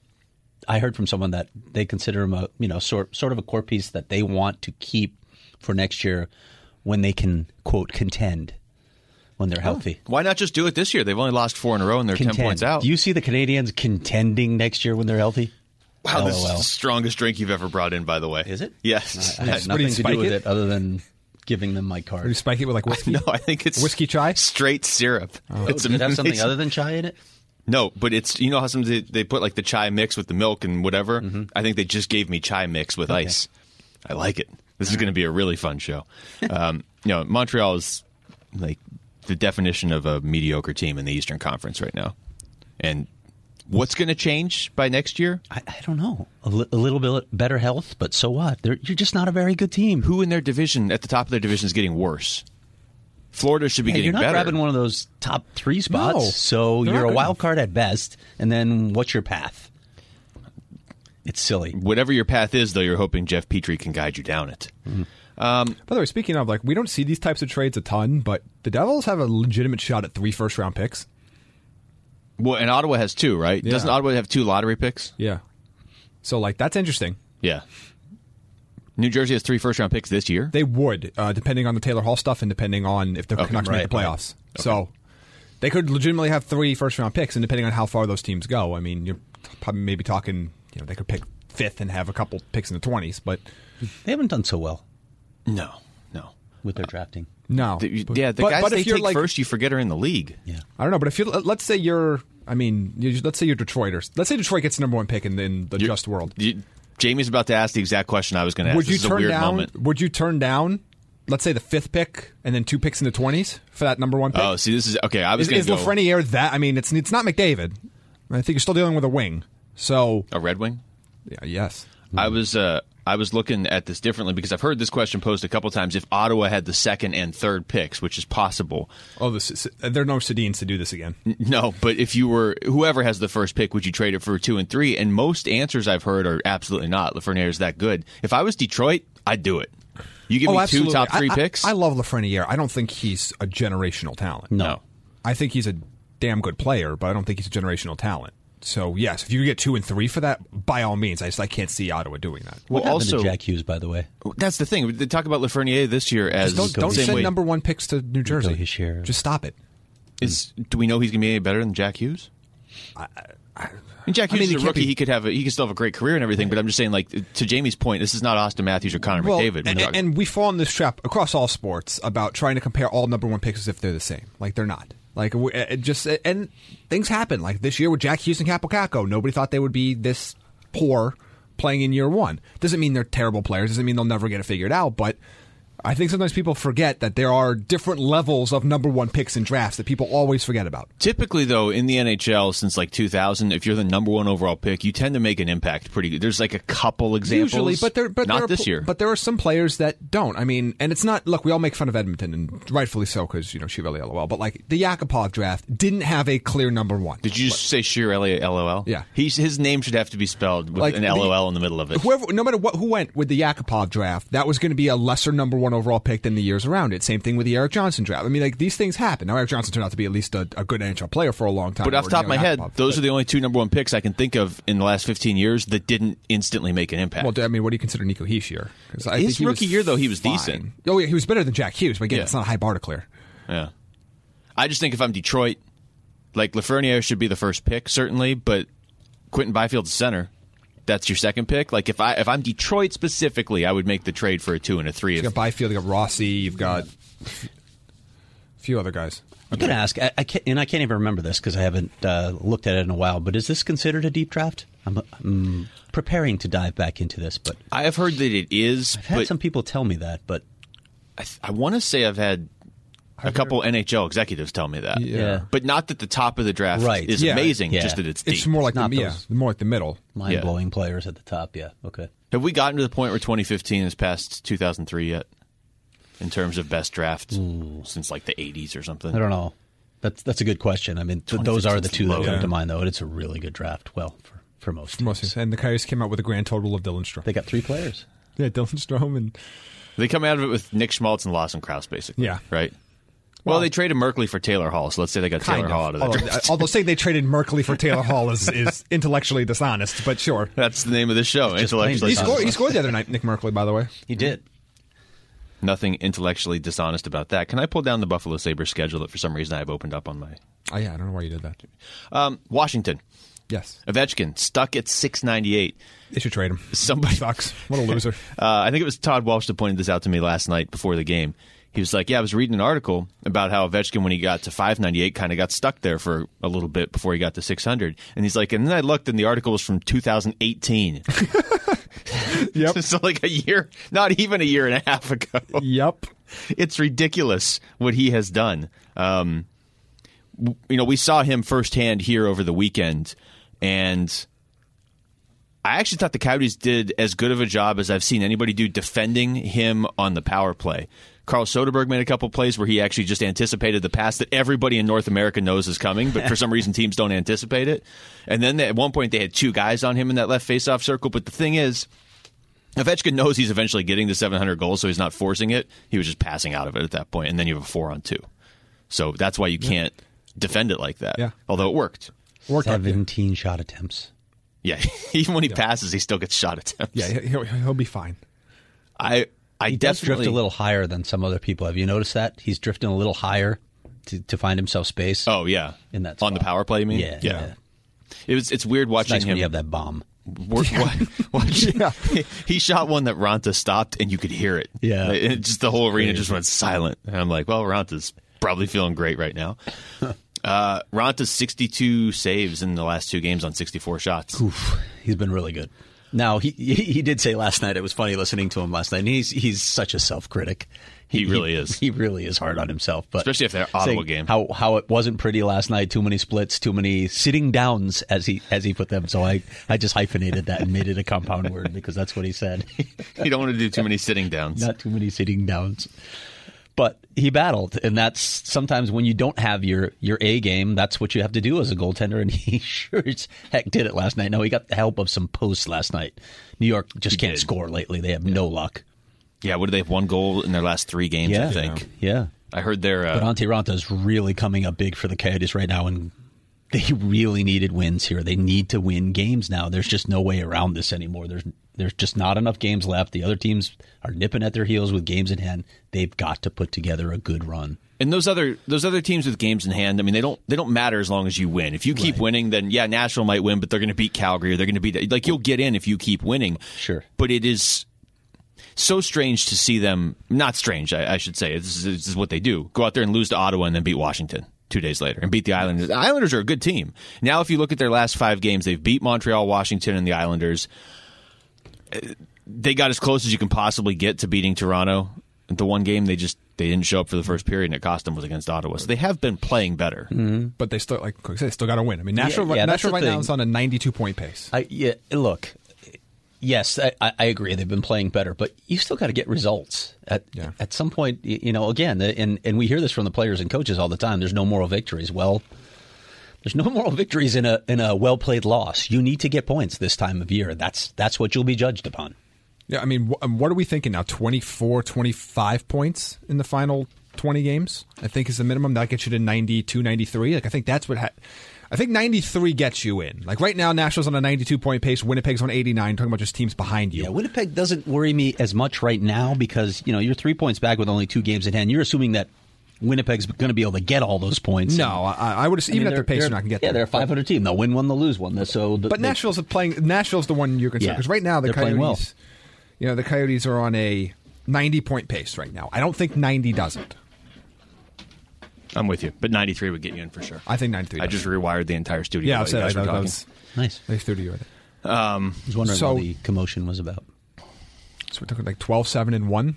I heard from someone that they consider him a you know sort sort of a core piece that they want to keep for next year when they can quote contend when they're healthy. Why not just do it this year? They've only lost four in a row and they're Contend. ten points out. Do you see the Canadians contending next year when they're healthy? Wow, this is LOL. the strongest drink you've ever brought in, by the way. Is it? Yes. I had What do nothing you to spike do with it? it other than giving them my Or you card. spike it with like whiskey? No, I think it's Whiskey chai? straight syrup. Oh, It's does it have something amazing. other than chai in it? No, but it's, you know how sometimes they, they put like the chai mix with the milk and whatever? Mm-hmm. I think they just gave me chai mix with ice. I like it. This is going to be a really fun show. um, you know, Montreal is like the definition of a mediocre team in the Eastern Conference right now. And what's going to change by next year? I, I don't know. A, li- a little bit better health, but so what? They're, you're just not a very good team. Who in their division, at the top of their division, is getting worse? Florida should be Yeah, getting you're not better. grabbing one of those top three spots, No, so they're you're not a good wild enough. card at best. And then what's your path? It's silly. Whatever your path is, though, you're hoping Jeff Petrie can guide you down it. By the way, speaking of, like, we don't see these types of trades a ton, but the Devils have a legitimate shot at three first-round picks. Well, and Ottawa has two, right? Yeah. Doesn't Ottawa have two lottery picks? Yeah. So, like, that's interesting. Yeah. New Jersey has three first-round picks this year. They would, uh, depending on the Taylor Hall stuff and depending on if the Okay, Canucks make the right, right. playoffs. So, they could legitimately have three first-round picks, and depending on how far those teams go, I mean, you're probably maybe talking, you know, they could pick fifth and have a couple picks in the twenties, but They haven't done so well No, no. with their drafting. no. The- But- yeah, the but- guys but they if you're take like, first, you forget are in the league. Yeah. I don't know, but if you let's say you're, I mean, you, let's say you're Detroit, or let's say Detroit gets the number one pick in, in the You're- just world. You, Jamie's about to ask the exact question I was going to ask. Would you this is a turn weird down? moment. Would you turn down, let's say, the fifth pick and then two picks in the twenties for that number one pick? Oh, see, this is okay. I was is going is to go Lafreniere that? I mean, it's it's not McDavid. I think you're still dealing with a wing. So, a Red Wing. yeah, yes. I was uh, I was looking at this differently because I've heard this question posed a couple times. If Ottawa had the second and third picks, which is possible, Oh, this, there are no Sedins to do this again. no. But if you were whoever has the first pick, would you trade it for two and three? And most answers I've heard are absolutely not. Lafreniere is that good. If I was Detroit, I'd do it. You give oh, me absolutely. two top three I, I- picks. I, love Lafreniere. I don't think he's a generational talent. no. I think he's a damn good player, but I don't think he's a generational talent. So, yes, if you get two and three for that, by all means. I just I can't see Ottawa doing that. What Well, happened also- to Jack Hughes, by the way? That's the thing. They talk about Lafreniere this year as Don't, the don't same send way. number one picks to New Jersey. Hischier. Just stop it. Is do we know he's going to be any better than Jack Hughes? I, mean, Jack I Hughes mean, he is a can't rookie. be- He could have. A, he could still have a great career and everything. But I'm just saying, like to Jamie's point, this is not Austin Matthews or Connor Well, McDavid. We're and, talking- and we fall in this trap across all sports about trying to compare all number one picks as if they're the same. Like they're not. Like we- it just and things happen. Like this year with Jack Hughes and Capocacco, nobody thought they would be this poor playing in year one. Doesn't mean they're terrible players. Doesn't mean they'll never get it figured out. But I think sometimes people forget that there are different levels of number one picks in drafts that people always forget about. Typically, though, in the N H L since like two thousand, if you're the number one overall pick, you tend to make an impact pretty good. There's like a couple examples. Usually, but there, but not there are, this year. But there are some players that don't. I mean, and it's not. Look, we all make fun of Edmonton, and rightfully so, because you know she really LOL. But like the Yakupov draft didn't have a clear number one. Did you just say sheer L O L? Yeah. He's, his name should have to be spelled with Like an the- L O L in the middle of it. Whoever, no matter what, who went with the Yakupov draft, that was going to be a lesser number one overall pick than the years around it. Same thing with the Eric Johnson draft. I mean, like these things happen. Now, Eric Johnson turned out to be at least a, a good N H L player for a long time. But off the or, top of you my know, head, Yakupov. those But- are the only two number one picks I can think of in the last fifteen years that didn't instantly make an impact. Well, I mean, what do you consider Nico Hischier? 'Cause I His think he was rookie year, though, he was fine. decent. Oh, yeah, he was better than Jack Hughes. But again, Yeah. it's not a high bar to clear. Yeah. I just think if I'm Detroit, like Lafreniere should be the first pick, certainly, but Quentin Byfield's center. That's your second pick. Like if I if I'm Detroit specifically, I would make the trade for a two and a three. You If, got Byfield, you got Rossi, you've got a few other guys. I'm going to ask, I, I can't, and I can't even remember this because I haven't uh, looked at it in a while, but is this considered a deep draft? I'm, I'm preparing to dive back into this, but I have heard that it is, I've had but some people tell me that, but I, th- I want to say I've had a couple N H L executives tell me that. Yeah. But not that the top of the draft Right. is Yeah. amazing, Yeah. just that it's deep. It's more like the, Not yeah, those- more like the middle. mind-blowing players at the top, yeah, okay. Have we gotten to the point where twenty fifteen is past two thousand three yet? In terms of best draft since like the eighties or something? I don't know. That's that's a good question. I mean, th- those are the two that low. come Yeah. to mind, though, and it's a really good draft. Well, for, for most teams. Most, and the Coyotes came out with a grand total of Dylan Strome. They got three players. Yeah, Dylan Strome and They come out of it with Nick Schmaltz and Lawson Krause, basically. Yeah. Right? Well, Well- they traded Merkley for Taylor Hall, so let's say they got kind Taylor Hall out of the although, draft. although saying they traded Merkley for Taylor Hall is, is intellectually dishonest, but sure. That's the name of the show. Just Intellectually He plain scored, he dishonest. scored the other night, Nick Merkley, by the way. He did. Nothing intellectually dishonest about that. Can I pull down the Buffalo Sabres schedule that for some reason I've opened up on my Oh, yeah, I don't know why you did that. Um, Washington. Yes. Ovechkin stuck at six ninety-eight. They should trade him. Somebody sucks. What a loser. Uh, I think it was Todd Walsh that pointed this out to me last night before the game. He was like, yeah, I was reading an article about how Ovechkin, when he got to five ninety-eight, kind of got stuck there for a little bit before he got to six hundred. And he's like, and then I looked, and the article was from two thousand eighteen. Yep. So like a year, not even a year and a half ago. Yep. It's ridiculous what he has done. Um, w- you know, we saw him firsthand here over the weekend, and I actually thought the Coyotes did as good of a job as I've seen anybody do defending him on the power play. Carl Soderberg made a couple plays where he actually just anticipated the pass that everybody in North America knows is coming, but for some reason teams don't anticipate it. And then they, at one point they had two guys on him in that left faceoff circle. But the thing is, Ovechkin knows he's eventually getting to seven hundred goals, so he's not forcing it. He was just passing out of it at that point, and then you have a four on two. So that's why you can't defend it like that. Yeah. Although it worked. Worked out, yeah. seventeen shot attempts. Yeah, even when he passes, he still gets shot attempts. Yeah, he'll, he'll be fine. I I He does definitely drift a little higher than some other people. Have you noticed that? He's drifting a little higher to, to find himself space. Oh yeah, In that on the spot. power play, you mean? Yeah, yeah. It was. It's weird It's watching nice him. when you have that bomb. Work, watch, Yeah. he, he shot one that Ranta stopped, and you could hear it. Yeah. Like, it just the whole arena just went silent. And I'm like, well, Ranta's probably feeling great right now. uh, Ranta's sixty-two saves in the last two games on sixty-four shots. Oof, he's been really good. Now he he did say last night. It was funny listening to him last night. And he's he's such a self-critic. He really is. He really is hard on himself. But Especially if they're Ottawa saying game. How how it wasn't pretty last night. Too many splits. Too many sitting downs, as he as he put them. So I I just hyphenated that and made it a compound word because that's what he said. You don't want to do too many sitting downs. Not too many sitting downs. But he battled, and that's sometimes when you don't have your, your A game, that's what you have to do as a goaltender, and he sure as heck did it last night. No, he got the help of some posts last night. New York just He can't did. score lately. They have no luck. Yeah, what do they have? One goal in their last three games, Yeah. I think. Yeah. I heard their. But Uh, Antti Ranta is really coming up big for the Coyotes right now, and they really needed wins here. They need to win games now. There's just no way around this anymore. There's there's just not enough games left. The other teams are nipping at their heels with games in hand. They've got to put together a good run. And those other those other teams with games in hand, I mean, they don't they don't matter as long as you win. If you keep Right. winning, then yeah, Nashville might win, but they're going to beat Calgary. Or they're going to beat like you'll get in if you keep winning. Sure. But it is so strange to see them. Not strange, I, I should say. This is, this is what they do: go out there and lose to Ottawa, and then beat Washington two days later, and beat the Islanders. The Islanders are a good team. Now, if you look at their last five games, they've beat Montreal, Washington, and the Islanders. They got as close as you can possibly get to beating Toronto. The one game they just they didn't show up for the first period, and it cost them was against Ottawa. So they have been playing better. But they still, like I said, still got to win. I mean, Nashville, yeah, that's Nashville the right now thing. is on a ninety-two point pace. I yeah, look. Yes, I, I agree. They've been playing better, but you still got to get results at Yeah. at some point. y- You know, again, and and we hear this from the players and coaches all the time. There's no moral victories. Well, there's no moral victories in a in a well played loss. You need to get points this time of year. That's that's what you'll be judged upon. Yeah, I mean, wh- um, what are we thinking now? twenty-four, twenty-five points in the final twenty games, I think is the minimum. That gets you to ninety-two, ninety-three. Like, I think that's what ha- I think ninety-three gets you in. Like, right now, Nashville's on a ninety-two point pace. Winnipeg's on eighty-nine, talking about just teams behind you. Yeah, Winnipeg doesn't worry me as much right now because you know you're three points back with only two games in hand. You're assuming that Winnipeg's going to be able to get all those points. No, I, I would have, I mean, even at their they're- pace, they're- they're not going to get Yeah, there. they're a five hundred team. They'll win one, they'll lose one. So, the, But they- Nashville's playing. Nashville's the one you're concerned Yeah, because right now the they're playing Coyotes, well. you know, the Coyotes are on a ninety point pace right now. I don't think ninety does it. I'm with you, but ninety-three would get you in for sure. I think ninety-three. I does. just rewired the entire studio. yeah, while I you said guys I, were that talking. was. nice. They threw to you with it. I was wondering So- what the commotion was about. So we're talking like twelve, seven, and one.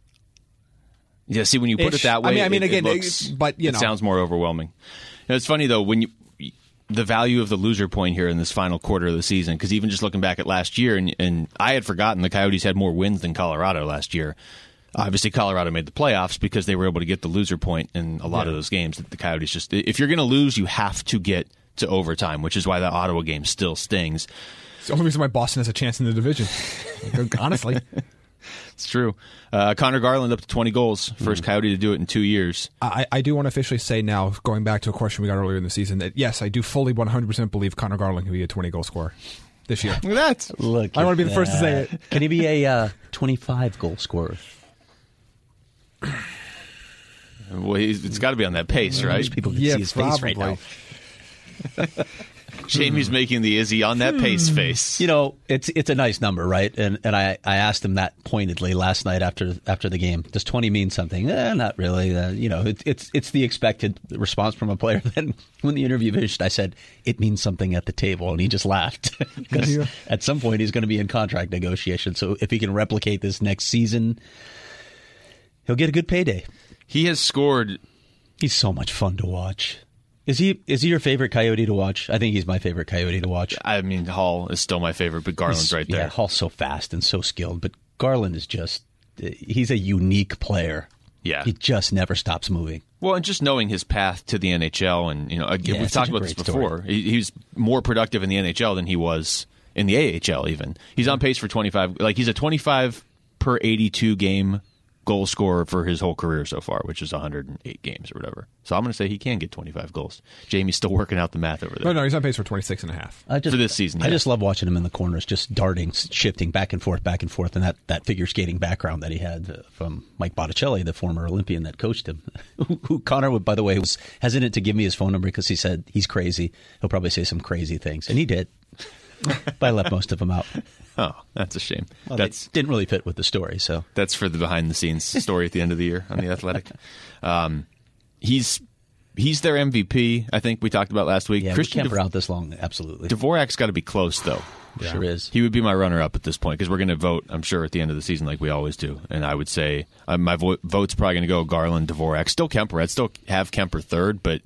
Yeah, see, when you put Ish. it that way, I mean- I mean, it- again, it looks, it- but, you it know. sounds more overwhelming. And it's funny though when you the value of the loser point here in this final quarter of the season, because even just looking back at last year, and, and I had forgotten the Coyotes had more wins than Colorado last year. Obviously, Colorado made the playoffs because they were able to get the loser point in a lot Yeah. of those games. The Coyotes just, if you're going to lose, you have to get to overtime, which is why that Ottawa game still stings. It's the only reason why Boston has a chance in the division. Like, honestly, It's true. Uh, Connor Garland up to twenty goals, Mm-hmm. first Coyote to do it in two years. I, I do want to officially say now, going back to a question we got earlier in the season, that yes, I do fully one hundred percent believe Connor Garland can be a twenty goal scorer this year. Look at that. Look, I wanna at be the first to say that. it. Can he be a uh, twenty-five goal scorer? Well, he's, it's got to be on that pace, right? Most people can Yeah, see his face right now. probably. Jamie's making the Izzy on that pace face. You know, it's it's a nice number, right? And and I, I asked him that pointedly last night after after the game. Does twenty mean something? Eh, not really. Uh, you know, it, it's it's the expected response from a player. Then when the interview finished, I said it means something at the table, and he just laughed because Yeah. at some point he's going to be in contract negotiations. So if he can replicate this next season, he'll get a good payday. He has scored. He's so much fun to watch. Is he is he your favorite Coyote to watch? I think he's my favorite Coyote to watch. I mean, Hall is still my favorite, but Garland's He's- right there. Yeah, Hall's so fast and so skilled, but Garland is just he's a unique player. Yeah. He just never stops moving. Well, and just knowing his path to the N H L, and you know, again, Yeah, we've it's talked such a about this great story. before. He, he was more productive in the N H L than he was in the A H L. Even he's on pace for twenty-five. Like he's a twenty-five per eighty-two game goal scorer for his whole career so far, which is one hundred eight games or whatever. So I'm going to say he can get twenty-five goals. Jamie's still working out the math over there. No, no, he's on pace for twenty-six and a half. I just, For this season, I yeah. just love watching him in the corners, just darting, shifting back and forth, back and forth, and that, that figure skating background that he had uh, from Mike Botticelli, the former Olympian that coached him. who, who Connor, would, by the way, was hesitant to give me his phone number because he said he's crazy. He'll probably say some crazy things, and he did. But I left most of them out. Oh, that's a shame. Well, that's they didn't really fit with the story, so. That's for the behind-the-scenes story at the end of the year on The Athletic. Um, he's he's their M V P, I think we talked about last week. Yeah, Christian we camper Dv- out this long, absolutely. Dvorak's got to be close, though. Sure is. He would be my runner-up at this point because we're going to vote, I'm sure, at the end of the season like we always do. And I would say uh, my vo- vote's probably going to go Garland, Dvorak. Still Kemper. I'd still have Kemper third, but,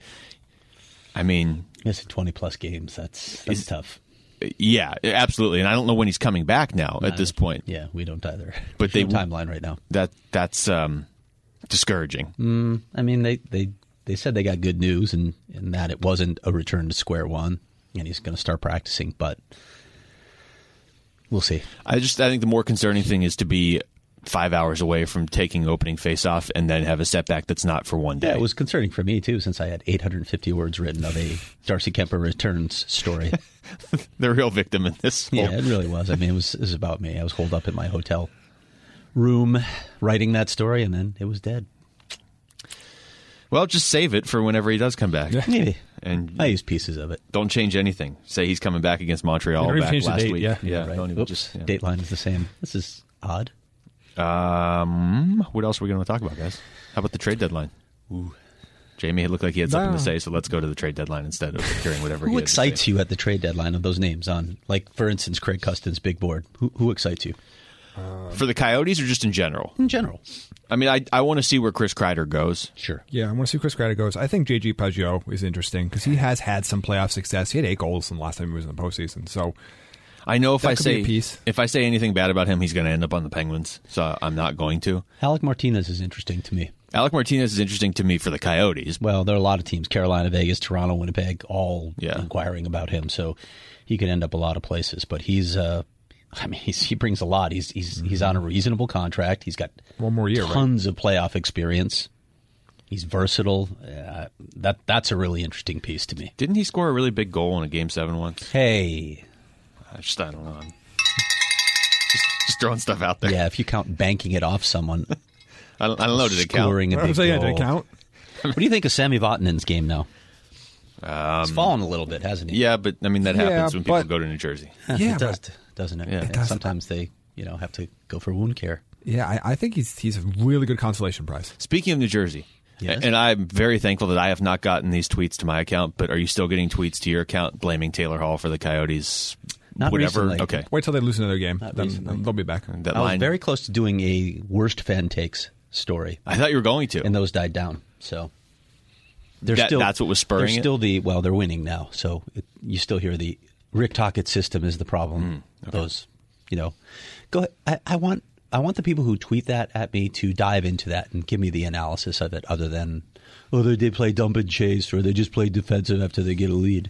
I mean, It's twenty-plus games. That's, that's Is- tough. yeah, absolutely. And I don't know when he's coming back now at this point. Yeah, we don't either. But There's they- no timeline right now. That That's um, discouraging. I mean, they, they, they said they got good news and in, in that it wasn't a return to square one, and he's going to start practicing, but we'll see. I just I think the more concerning thing is to be five hours away from taking opening face-off and then have a setback that's not for one day. Yeah, it was concerning for me, too, since I had eight hundred fifty words written of a Darcy Kemper returns story. the real victim in this. Yeah, whole- it really was. I mean, it was, it was about me. I was holed up in my hotel room writing that story, and then it was dead. Well, just save it for whenever he does come back. Maybe. And I used pieces of it. don't change anything. Say he's coming back against Montreal You don't even back change the last date, week. yeah. yeah. Right. Don't even Oops, just. yeah. Dateline is the same. This is odd. Um, what else are we going to talk about, guys? How about the trade deadline? Ooh. Jamie, it looked like he had something No. to say, so let's go to the trade deadline instead of hearing whatever he Who had to say. excites you at the trade deadline of those names on, like, for instance, Craig Custon's big board? Who, who excites you? For the Coyotes or just in general? In general. I mean, I I want to see where Chris Kreider goes. Sure. Yeah, I want to see where Chris Kreider goes. I think J G Pageau is interesting because he has had some playoff success. He had eight goals in the last time he was in the postseason. So I know if That I could be say a piece. if I say anything bad about him, he's going to end up on the Penguins. So I'm not going to. Alec Martinez is interesting to me. Alec Martinez is interesting to me for the Coyotes. Well, there are a lot of teams, Carolina, Vegas, Toronto, Winnipeg, all Yeah. inquiring about him. So he could end up a lot of places. But he's, uh, I mean, he's, he brings a lot. He's he's he's on a reasonable contract. He's got One more year, right? tons of playoff experience. He's versatile. Uh, that that's a really interesting piece to me. Didn't he score a really big goal in a game seven once? Hey, I just I don't know. I'm just, just throwing stuff out there. yeah, if you count banking it off someone, I don't, I don't know. Did it count? scoring a I big was saying, yeah, goal. did it count? What do you think of Sammy Vatanen's game now? Um, He's fallen a little bit, hasn't he? Yeah, but I mean that Yeah, happens when people but- go to New Jersey. Yeah, it does, but- doesn't it? Yeah. It does. Sometimes they, you know, have to go for wound care. Yeah, I, I think he's he's a really good consolation prize. Speaking of New Jersey, Yes? and I'm very thankful that I have not gotten these tweets to my account. But are you still getting tweets to your account blaming Taylor Hall for the Coyotes? Not Whatever. recently. Okay, Wait till they lose another game. Not Then recently. they'll be back. that I was line. very close to doing a worst fan takes story, I thought you were going to. and those died down. So they're That- still that's what was spurring They're it? still the well, they're winning now. So it, you still hear the Rick Tocchet system is the problem. Hmm, Those, you know, go. ahead. I, I want I want the people who tweet that at me to dive into that and give me the analysis of it, other than oh they did play dump and chase or they just play defensive after they get a lead.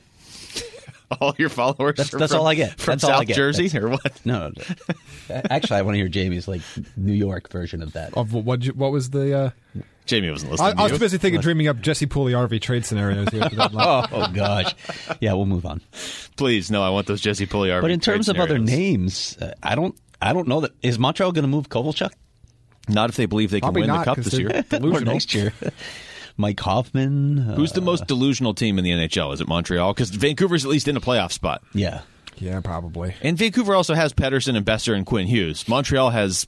all your followers. That's- are that's from, all I get. from That's South all I get. Jersey, That's- or what? No, no. Actually, I want to hear Jamie's like New York version of that. Of what? you- What was the? Uh, Jamie wasn't I, listening. I was to you. busy thinking, dreaming up Jesse Pugliarvi trade scenarios here. For that line. Oh, oh gosh, yeah, we'll move on. Please, no. I want those Jesse Pugliarvi. But in trade terms of other scenarios. names, uh, I don't, I don't know that is Montreal going to move Kovalchuk not if they believe they can Probably win not, the cup 'cause this they're year. or delusional. next year. Mike Hoffman. Who's the uh, most delusional team in the N H L? Is it Montreal? Because Vancouver's at least in a playoff spot. Yeah. Yeah, probably. And Vancouver also has Pettersson and Besser and Quinn Hughes. Montreal has...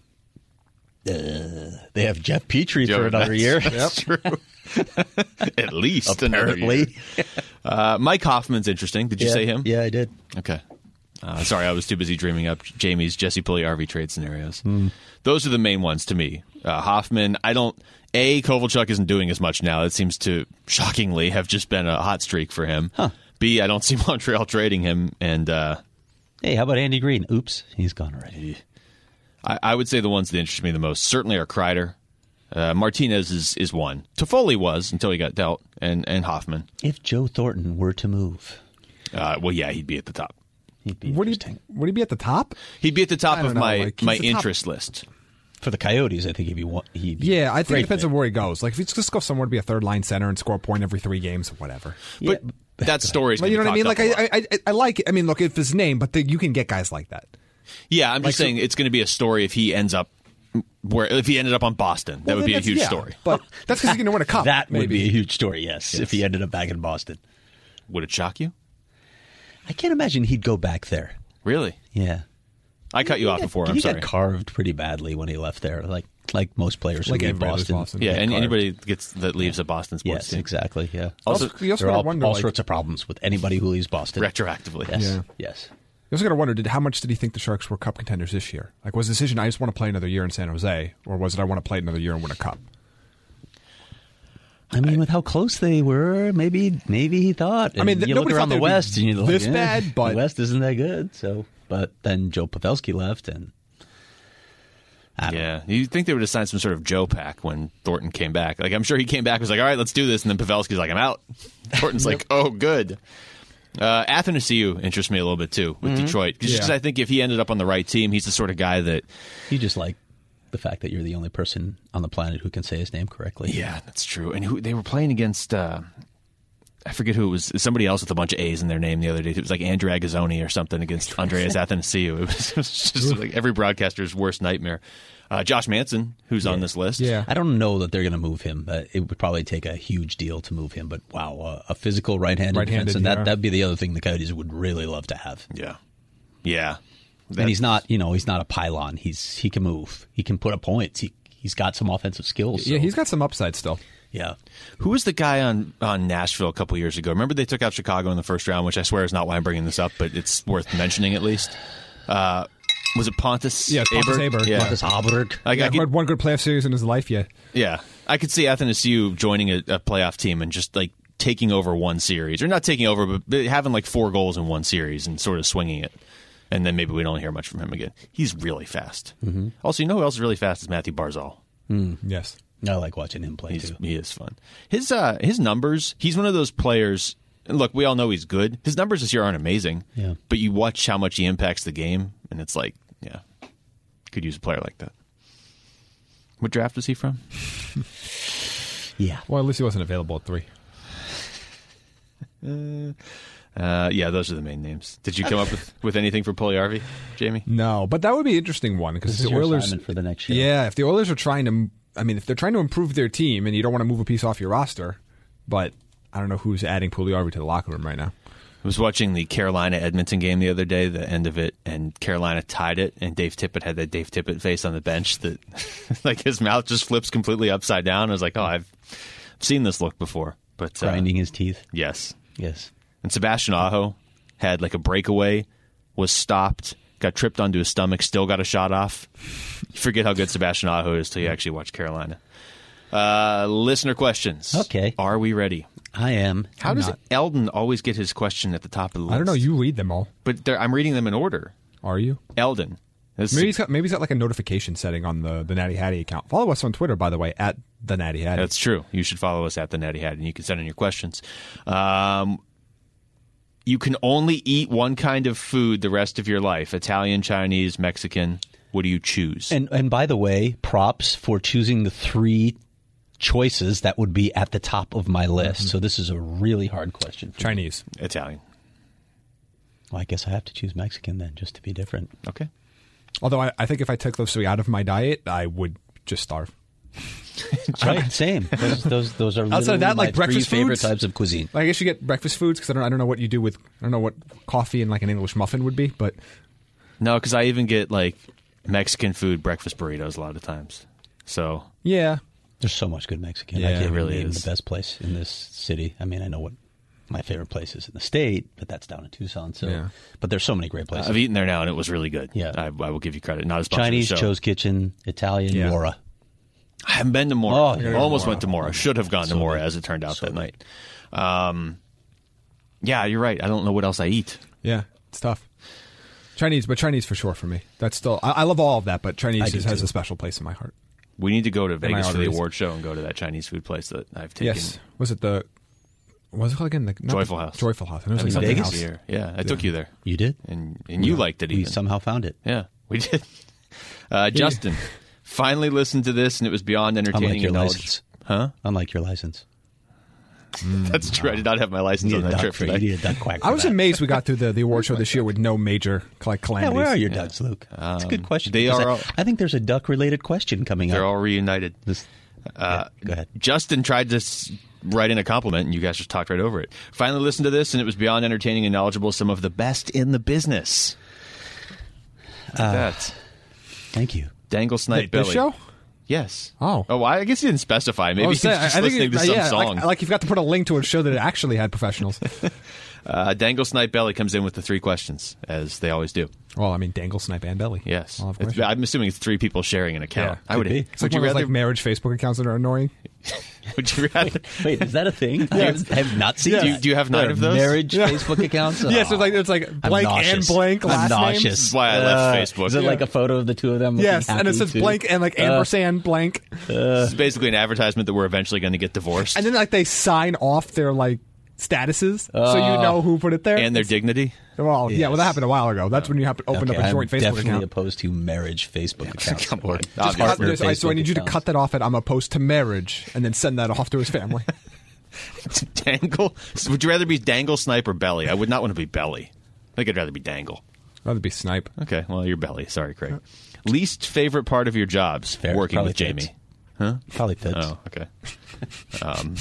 Uh, they have Jeff Petrie Joe, for another that's, year. That's true. At least Apparently. another year. Uh, Mike Hoffman's interesting. Did you yeah, say him? Yeah, I did. Okay. Uh, sorry, I was too busy dreaming up Jamie's Jesse Puljujärvi trade scenarios. Mm. Those are the main ones to me. Uh, Hoffman, I don't... A, Kovalchuk isn't doing as much now. It seems to, shockingly, have just been a hot streak for him. Huh. B, I don't see Montreal trading him. And uh, Hey, how about Andy Green? Oops, he's gone already. I, I would say the ones that interest me the most certainly are Kreider. Uh, Martinez is, is one. Toffoli was until he got dealt, and, and Hoffman. If Joe Thornton were to move, Uh, well, yeah, he'd be at the top. he'd be Would he, interesting. would he be at the top? He'd be at the top I don't of know, my, like, he's my the top- interest list. For the Coyotes, I think he'd be one. He'd be Yeah, I think great it depends fit. on where he goes. Like, if he just goes somewhere to be a third line center and score a point every three games, whatever. But Yeah, that story's But gonna you know be what I mean? talked Like, up a lot. I, I, I like it. I mean, look, if his name, but the, you can get guys like that. Yeah, I'm just Like, so- saying it's going to be a story if he ends up where if he ended up on Boston. That Well, would then be a that's- huge yeah, story. But that's because he's going to win a cup. That would maybe. be a huge story, yes, if he ended up back in Boston. Would it shock you? I can't imagine he'd go back there. Really? Yeah. I cut you He off got- before. I'm he sorry. got carved pretty badly when he left there, like like most players Like who leave everybody leaves Boston. Boston. Yeah, get any, carved. anybody gets that leaves a Boston sports Yes, team exactly. Yeah. Also, you also there are got all, to wonder, all like, sorts of problems with anybody who leaves Boston. retroactively. Yes. Yeah. Yes. You also got to wonder, did how much did he think the Sharks were cup contenders this year? Like, was the decision, I just want to play another year in San Jose, or was it I want to play another year and win a cup? I mean, with how close they were, maybe maybe he thought. I mean, And th- you look nobody around thought the they'd be West, and you're like, this eh, bad, but- the West isn't that good. So, but then Joe Pavelski left, and I don't Yeah, you think they would have signed some sort of Joe pack when Thornton came back? Like, I'm sure he came back and was like, "All right, let's do this," and then Pavelski's like, "I'm out." Thornton's like, "Oh, good." Uh, Athanasiou interests me a little bit too with Detroit, just because Yeah. I think if he ended up on the right team, he's the sort of guy that. You just like the fact that you're the only person on the planet who can say his name correctly. Yeah, that's true. And who they were playing against? Uh, I forget who it was. Somebody else with a bunch of A's in their name the other day. It was like Andrew Agazzoni or something against Andreas Athanasiou. It was, it was just like every broadcaster's worst nightmare. Uh, Josh Manson, who's on this list. Yeah. I don't know that they're going to move him. But it would probably take a huge deal to move him. But wow, uh, a physical right-handed, Right-handed, defense, and that yeah. that'd be the other thing the Coyotes would really love to have. Yeah. Yeah. And he's not, you know, he's not a pylon. He's he can move. He can put up points. He he's got some offensive skills. Yeah, so- he's got some upside still. yeah. Who was the guy on, on Nashville a couple years ago? Remember they took out Chicago in the first round, which I swear is not why I'm bringing this up, but it's worth mentioning at least. Uh, was it Pontus? Yeah, Pontus Aber? Aber. Yeah. Marcus Haberg. Like, Yeah, I could, had one good playoff series in his life, yeah. yeah, I could see Athanasiou joining a, a playoff team and just like taking over one series, or not taking over, but, but having like four goals in one series and sort of swinging it. And then maybe we don't hear much from him again. He's really fast. Mm-hmm. Also, you know who else is really fast is Matthew Barzal. Yes. I like watching him play He's, too. he is fun. His uh, his numbers. He's one of those players. And look, we all know he's good. His numbers this year aren't amazing. Yeah. But you watch how much he impacts the game, and it's like, yeah, could use a player like that. What draft was he from? Yeah. Well, at least he wasn't available at three. Uh, yeah, those are the main names. Did you come up with, with anything for Puljujärvi, Jamie? No, but that would be an interesting one because This is the your Oilers. assignment for the next show. Yeah, if the Oilers are trying to, I mean, if they're trying to improve their team, and you don't want to move a piece off your roster, but I don't know who's adding Puljujärvi to the locker room right now. I was watching the Carolina-Edmonton game the other day, the end of it, and Carolina tied it, and Dave Tippett had that Dave Tippett face on the bench that, like, his mouth just flips completely upside down. I was like, oh, I've seen this look before. But uh, Grinding his teeth. yes. Yes. And Sebastian Aho had like a breakaway, was stopped, got tripped onto his stomach, still got a shot off. You forget how good Sebastian Aho is till you actually watch Carolina. Uh, listener questions. Okay. Are we ready? I am. How I'm does not. Eldon always get his question at the top of the list? I don't know. You read them all, But they're- I'm reading them in order. are you? Eldon. This is- Maybe he's got maybe he's got like a notification setting on the the Natty Hattie account. Follow us on Twitter, by the way, at the Natty Hattie. That's true. You should follow us at the Natty Hat, and you can send in your questions. Um, you can only eat one kind of food the rest of your life: Italian, Chinese, Mexican. What do you choose? And and by the way, props for choosing the three choices that would be at the top of my list. Mm-hmm. So this is a really hard question. For me. Chinese. Italian. Well, I guess I have to choose Mexican then, just to be different. Okay. Although I, I think if I took those three out of my diet, I would just starve. Right, same. Those those, those are Outside of literally that, like my breakfast three favorite foods? types of cuisine. Like, I guess you get breakfast foods because I don't, I don't know what you do with, I don't know what coffee and like an English muffin would be, but No, because I even get like Mexican food breakfast burritos a lot of times. So yeah. There's so much good Mexican. Yeah, I can't it really really name is. the best place in this city. I mean, I know what my favorite place is in the state, but that's down in Tucson. So, Yeah. but there's so many great places. I've eaten there now, and it was really good. Yeah. I, I will give you credit. Not as much Chinese, as the show. Joe's Kitchen, Italian, Yeah. Mora. I haven't been to Mora. Oh, I you gotta almost go to went to Mora. Should have gone to So Mora, good. as it turned out So that good. night. Um, yeah, you're right. I don't know what else I eat. Yeah, it's tough. Chinese, but Chinese for sure for me. That's still, I, I love all of that, but I Chinese do is, has too. a special place in my heart. We need to go to my Vegas for the arteries. award show and go to that Chinese food place that I've taken. Yes. Was it the, what was it called again? The, not Joyful the- House. Joyful House. And it was I like mean, something Vegas? else. Here. Yeah, I took you there, You did? and and you liked it. We Even. somehow found it. Yeah, we did. Uh, Justin finally listened to this, and it was beyond entertaining Unlike your and knowledge- license. Huh? Unlike your license. That's true. I did not have my license You on need a that duck trip for, you today. need a duck quack for I was that. amazed we got through the, the award show this year with no major like Yeah, calamities. where are your ducks, Luke? That's a good question. they because are I, all- I think there's a duck-related question coming They're up. all reunited. This, Uh, yeah, go ahead. Justin tried to s- write in a compliment, and you guys just talked right over it. Finally listened to this, and it was beyond entertaining and knowledgeable. Some of the best in the business. Look at that. Thank you. Dangle Snipe Wait, Belly. this show? Yes. Oh. Oh, I guess he didn't specify. Maybe I he was was saying, just I think listening it- to some yeah, song. Like, like you've got to put a link to a show that it actually had professionals. Uh, Dangle Snipe Belly comes in with the three questions, as they always do. Well, I mean, Dangle, Snipe, and Belly. Yes. All have It's- questions. I'm assuming it's three people sharing an account. Yeah, I would could be. It's Would like you one of those, rather? like marriage Facebook accounts that are annoying. Would you rather? Wait, is that a thing? I, have, I have not seen Do that. you- do you have nine There are of those? Marriage Facebook accounts? Yes, Oh. it's like it's like I'm blank and nauseous. blank last I'm names. nauseous. This is why I left Uh, Facebook. Is it like a photo of the two of them? looking Yes, and it happy, says too? blank and like Uh, ampersand blank, This is basically an advertisement that we're eventually going to get divorced. and then like they sign off their like statuses, so you know who put it there and their It's- dignity. Well, yeah, well that Yes. happened a while ago. That's when you have to open Okay, up a joint I'm Facebook definitely account. opposed to marriage Facebook accounts. Come on. Or Just Cut- partner just- I- so I Facebook need you to accounts. cut that off at I'm opposed to marriage, and then send that off to his family. Dangle? Would you rather be Dangle, Snipe, or Belly? I would not want to be Belly. I think I'd rather be Dangle. Rather be Snipe. Okay, well, you're Belly. Sorry, Craig. Least favorite part of your jobs? Fair. Working Probably with Jamie. fits. Huh? Probably fits. Oh, okay. Um,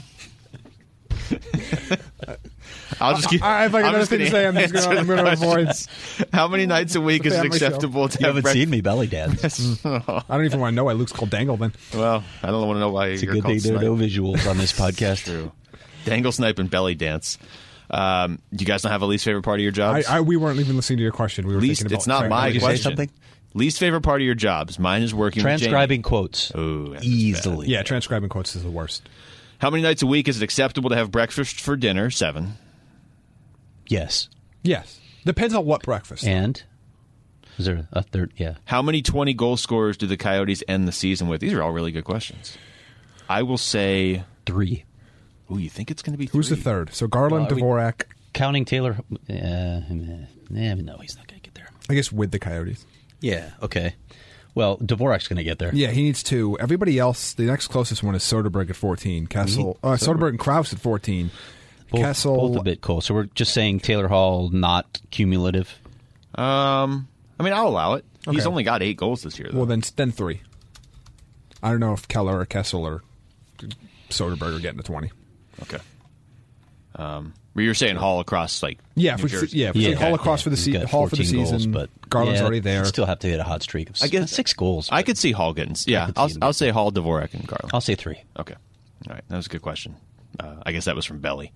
I'll just keep. I- if I got I'm another just thing to gonna say, I'm just answer gonna- I'm the gonna avoid- questions. How many nights a week is it family show. acceptable to You have haven't breakfast? seen me belly dance. I don't even want to know why Luke's called Dangle then. Well, I don't want to know why It's a you're good called thing there are Snipe. no visuals on this podcast. True. Dangle, Snipe, and Belly dance. Um, do you guys not have a least favorite part of your jobs? I, I we weren't even listening to your question. We were least, thinking about it's not my Did you say question. something? Least favorite part of your jobs. Mine is working Transcribing with quotes. Jamie. Ooh, that's Easily. Yeah, transcribing quotes is the worst. How many nights a week is it acceptable to have breakfast for dinner? Seven. Yes. Yes, depends on what breakfast. And is there a third? Yeah. How many twenty goal scorers do the Coyotes end the season with? These are all really good questions. I will say. Three. Ooh, you think it's going to be three? Who's the third? So Garland, Well, are we- Dvorak. Counting Taylor. Uh, eh, no, he's not going to get there. I guess with the Coyotes. Yeah. Okay. Well, Dvorak's going to get there. Yeah, he needs two. Everybody else, the next closest one is Soderberg at fourteen. Kessel, uh, Soderberg and Krause at fourteen. Both, Kessel, both a bit cool. So we're just saying Taylor Hall not cumulative. Um, I mean, I'll allow it. He's Okay. only got eight goals this year, though. well then then three. I don't know if Keller or Kessel or Soderberg are getting to twenty. Okay. Um, but you're saying Hall across, like, Yeah, New if we, Jersey. yeah, if we Yeah. take Hall across for the He's se- got Hall for the fourteen goals, season, but Garland's yeah, already there. he'd still have to hit a hot streak of I guess- six goals. I could see Hall getting. Yeah, could I'll, see him I'll get say Hall, Dvorak, and Garland. I'll say three. Okay. All right. That was a good question. Uh, I guess that was from Belly.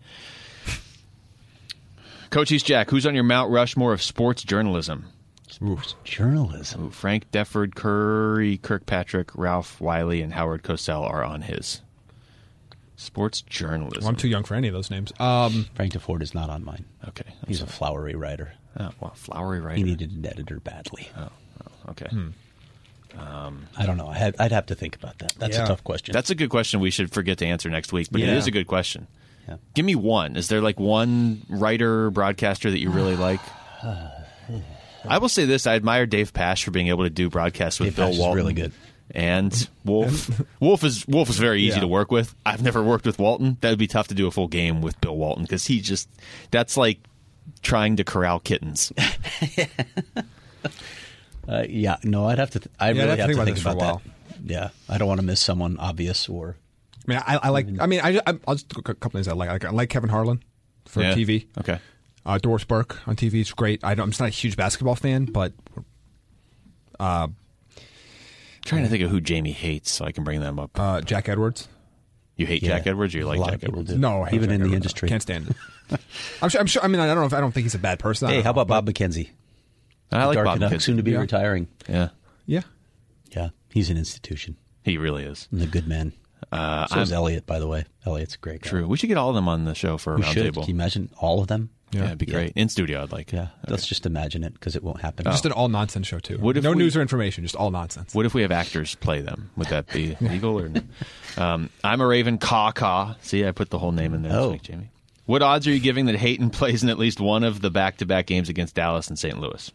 Coach East Jack, who's on your Mount Rushmore of sports journalism? Journalism. Ooh, Frank Defford, Curry, Kirkpatrick, Ralph Wiley, and Howard Cosell are on his. Sports journalism. Well, I'm too young for any of those names. Um, Frank DeFord is not on mine. Okay. He's a flowery writer. Oh, well, flowery writer. He needed an editor badly. Oh, oh, okay. I don't know. I had, I'd have to think about that. That's Yeah. a tough question. That's a good question we should forget to answer next week, but it Yeah. is a good question. Yeah. Give me one. Is there like one writer, broadcaster that you really like? I will say this. I admire Dave Pasch for being able to do broadcasts with Dave Bill Pasch is Walton. really good. And Wolf. Wolf is Wolf is very easy Yeah. to work with. I've never worked with Walton. That would be tough to do a full game with Bill Walton because he just that's like trying to corral kittens. Uh, yeah, no, I'd have to. Th- I Yeah, really I'd have to think this for about a while. that. Yeah, I don't want to miss someone obvious or. I mean, I, I like. I mean, I, I, I'll just do a couple things I like. I like, I like Kevin Harlan for Yeah. T V. Okay. Uh, Doris Burke on T V is great. I don't, I'm just not a huge basketball fan, but uh, trying to think of who Jamie hates so I can bring them up. uh, Jack Edwards. You hate Yeah. Jack Edwards or you like A lot Jack of people Edwards? do. No, I hate Even Jack in the Edwards. industry. Can't stand it. I'm sure. I'm sure. I mean, I don't know if I don't think he's a bad person. I Hey, don't how know, about but- Bob McKenzie? I like Dark Bob enough, McKenzie. soon to be Yeah. retiring. Yeah, Yeah. Yeah, he's an institution he really is. and a good man. Uh, So is I'm- Elliot, by the way. Elliot's a great guy. True. We should get all of them on the show for a We should. roundtable. Can you imagine all of them? Yeah, it'd be Yeah. great. In studio, I'd like. Yeah, let's just imagine it because it won't happen. Just an all nonsense show too. What if no we- news or information, just all nonsense. What if we have actors play them? Would that be legal or no? Um, I'm a Raven. Caw Caw. See, I put the whole name in there this Oh. week, Jamie. What odds are you giving that Hayton plays in at least one of the back-to-back games against Dallas and Saint Louis?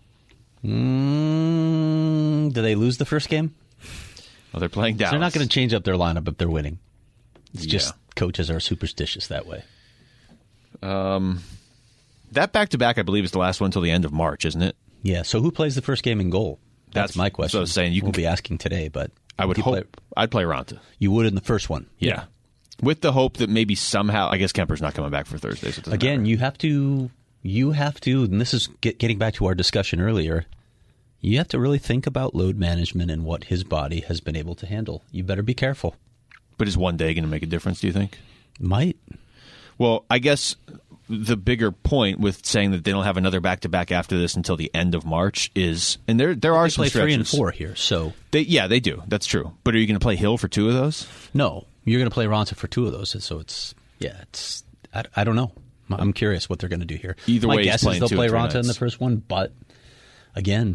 Mm, do they lose the first game? Well, they're playing Dallas. They're not going to change up their lineup if they're winning. It's Yeah. just coaches are superstitious that way. That back-to-back, I believe, is the last one until the end of March, isn't it? Yeah. So who plays the first game in goal? That's, That's- my question. so I was saying you we'll can- be asking today, but I would you hope. play- I'd play Ronta. you would in the first one. Yeah. With the hope that maybe somehow, I guess Kemper's not coming back for Thursday. So it doesn't Again, matter. you have to, you have to, and this is get, getting back to our discussion earlier. You have to really think about load management and what his body has been able to handle. You better be careful. But is one day going to make a difference, do you think? Might. Well, I guess the bigger point with saying that they don't have another back-to-back after this until the end of March is, and there there are They some play three and stretches. four here, so They, yeah, they do. That's true. But are you going to play Hill for two of those? no, you're going to play Ronta for two of those. So it's yeah, it's I, I don't know. I'm curious what they're going to do here. Either My way, he's guess is playing they'll two play and three Ronta in the nights. first one, but again,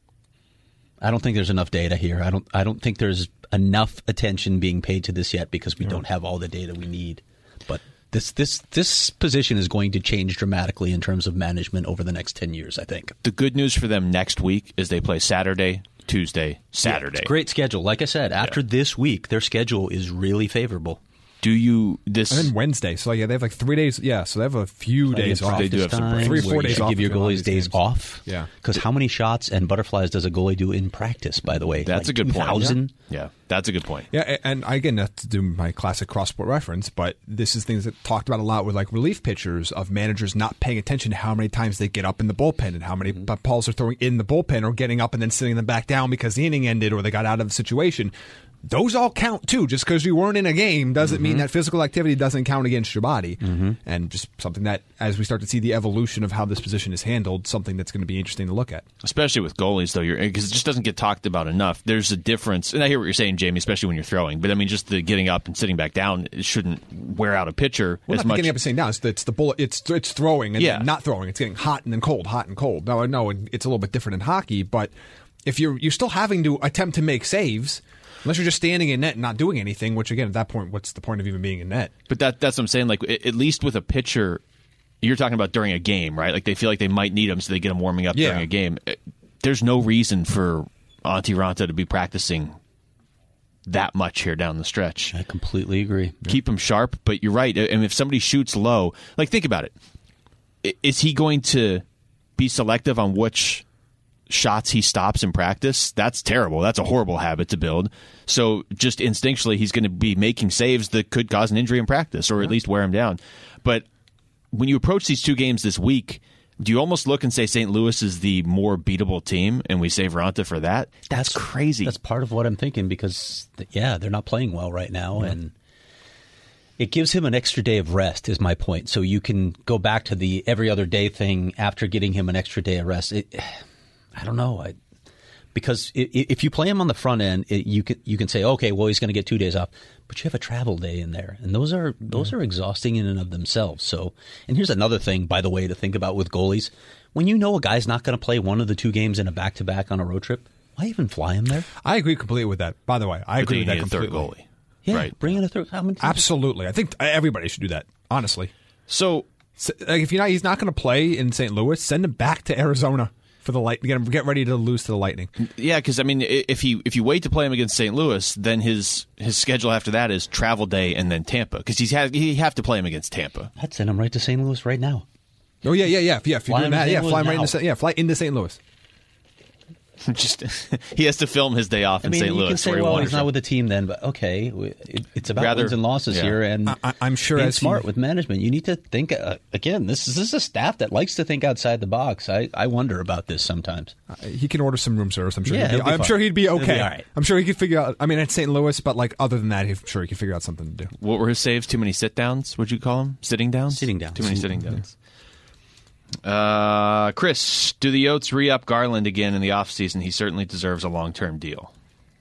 I don't think there's enough data here. I don't I don't think there's enough attention being paid to this yet because we don't have all the data we need. But this this this position is going to change dramatically in terms of management over the next ten years, I think. The good news for them next week is they play Saturday, Tuesday, Saturday. It's a great schedule. Like I said, after Yeah. this week, their schedule is really favorable. Do you this? And then Wednesday, so yeah, they have like three days. Yeah, so they have a few days They off. They do have some time breaks. Three or four where you days should off give your if you're on goalies these days games. off. Yeah. Because how many shots and butterflies does a goalie do in practice, by the way? That's Like a good point. two thousand? Yeah, that's a good point. Yeah, a- and again, not to do my classic cross-sport reference, but this is things that talked about a lot with like relief pitchers of managers not paying attention to how many times they get up in the bullpen and how many Mm-hmm. balls are throwing in the bullpen or getting up and then sitting them back down because the inning ended or they got out of the situation. Those all count too. Just because you weren't in a game doesn't Mm-hmm. mean that physical activity doesn't count against your body. And just something that, as we start to see the evolution of how this position is handled, something that's going to be interesting to look at. Especially with goalies, though, because it just doesn't get talked about enough. There's a difference, and I hear what you're saying, Jamie, especially when you're throwing. But I mean, just the getting up and sitting back down, it shouldn't wear out a pitcher Well, as not much. getting up and sitting down. It's, it's the bullet. It's it's throwing and Yeah. then not throwing. It's getting hot and then cold, hot and cold. No, no, it's a little bit different in hockey. But if you're you're still having to attempt to make saves, unless you're just standing in net and not doing anything. Which again, at that point, what's the point of even being in net? But that that's what I'm saying. Like a- at least with a pitcher, you're talking about during a game, right? Like they feel like they might need him, so they get him warming up Yeah. during a game. Eh, There's no reason for Antti Ranta to be practicing that much here down the stretch. I completely agree. Keep him sharp, but you're right. I mean, if somebody shoots low, like think about it. I- Is he going to be selective on which shots he stops in practice? That's terrible. That's a horrible habit to build. So just instinctually, he's going to be making saves that could cause an injury in practice or at least wear him down. But when you approach these two games this week, do you almost look and say Saint Louis is the more beatable team and we save Ranta for that? That's crazy. That's part of what I'm thinking because, yeah, they're not playing well right now. And it gives him an extra day of rest, is my point. So you can go back to the every other day thing after getting him an extra day of rest. It, I don't know. I, because i- i- if you play him on the front end, it, you can you can say, okay, well, he's going to get two days off, but you have a travel day in there, and those are those are exhausting in and of themselves. So, and here's another thing, by the way, to think about with goalies: when you know a guy's not going to play one of the two games in a back to back on a road trip, why even fly him there? I agree completely with that. By the way, I But agree then with you that need a third completely. goalie. Yeah, Right. bring in a third. How many Absolutely, I think everybody should do that. Honestly, So So, like, if you're not, he's not going to play in Saint Louis. Send him back to Arizona for the light. Get him, get ready to lose to the Lightning. yeah, because I mean, i- if he if you wait to play him against Saint Louis, then his his schedule after that is travel day and then Tampa because he's ha- he have to play him against Tampa. I'd send him right to Saint Louis right now. Oh yeah, yeah, yeah, yeah. If you're Fly doing him to that, Saint yeah, Louis fly him right now. into Sa- yeah, fly into Saint Louis. Just he has to film his day off I in mean, Saint you Louis. can say, where he well, wanted he's not to. with the team then, but okay, it, it's about Rather- wins and losses yeah. here, and I- I- I'm sure being as he- smart with management. You need to think uh, again. This is this is a staff that likes to think outside the box. I, I wonder about this sometimes. Uh, he can order some room service. I'm sure. Yeah, he'd be, he'll be I'm fine. sure he'd be He'll be okay. all right. I'm sure he could figure out. I mean, it's Saint Louis, but like other than that, I'm sure he could figure out something to do. What were his saves? Too many sit downs? Would you call them sitting downs? Sitting downs. Too many sitting downs. Uh, Chris, do the Yotes re-up Garland again in the offseason? He certainly deserves a long-term deal.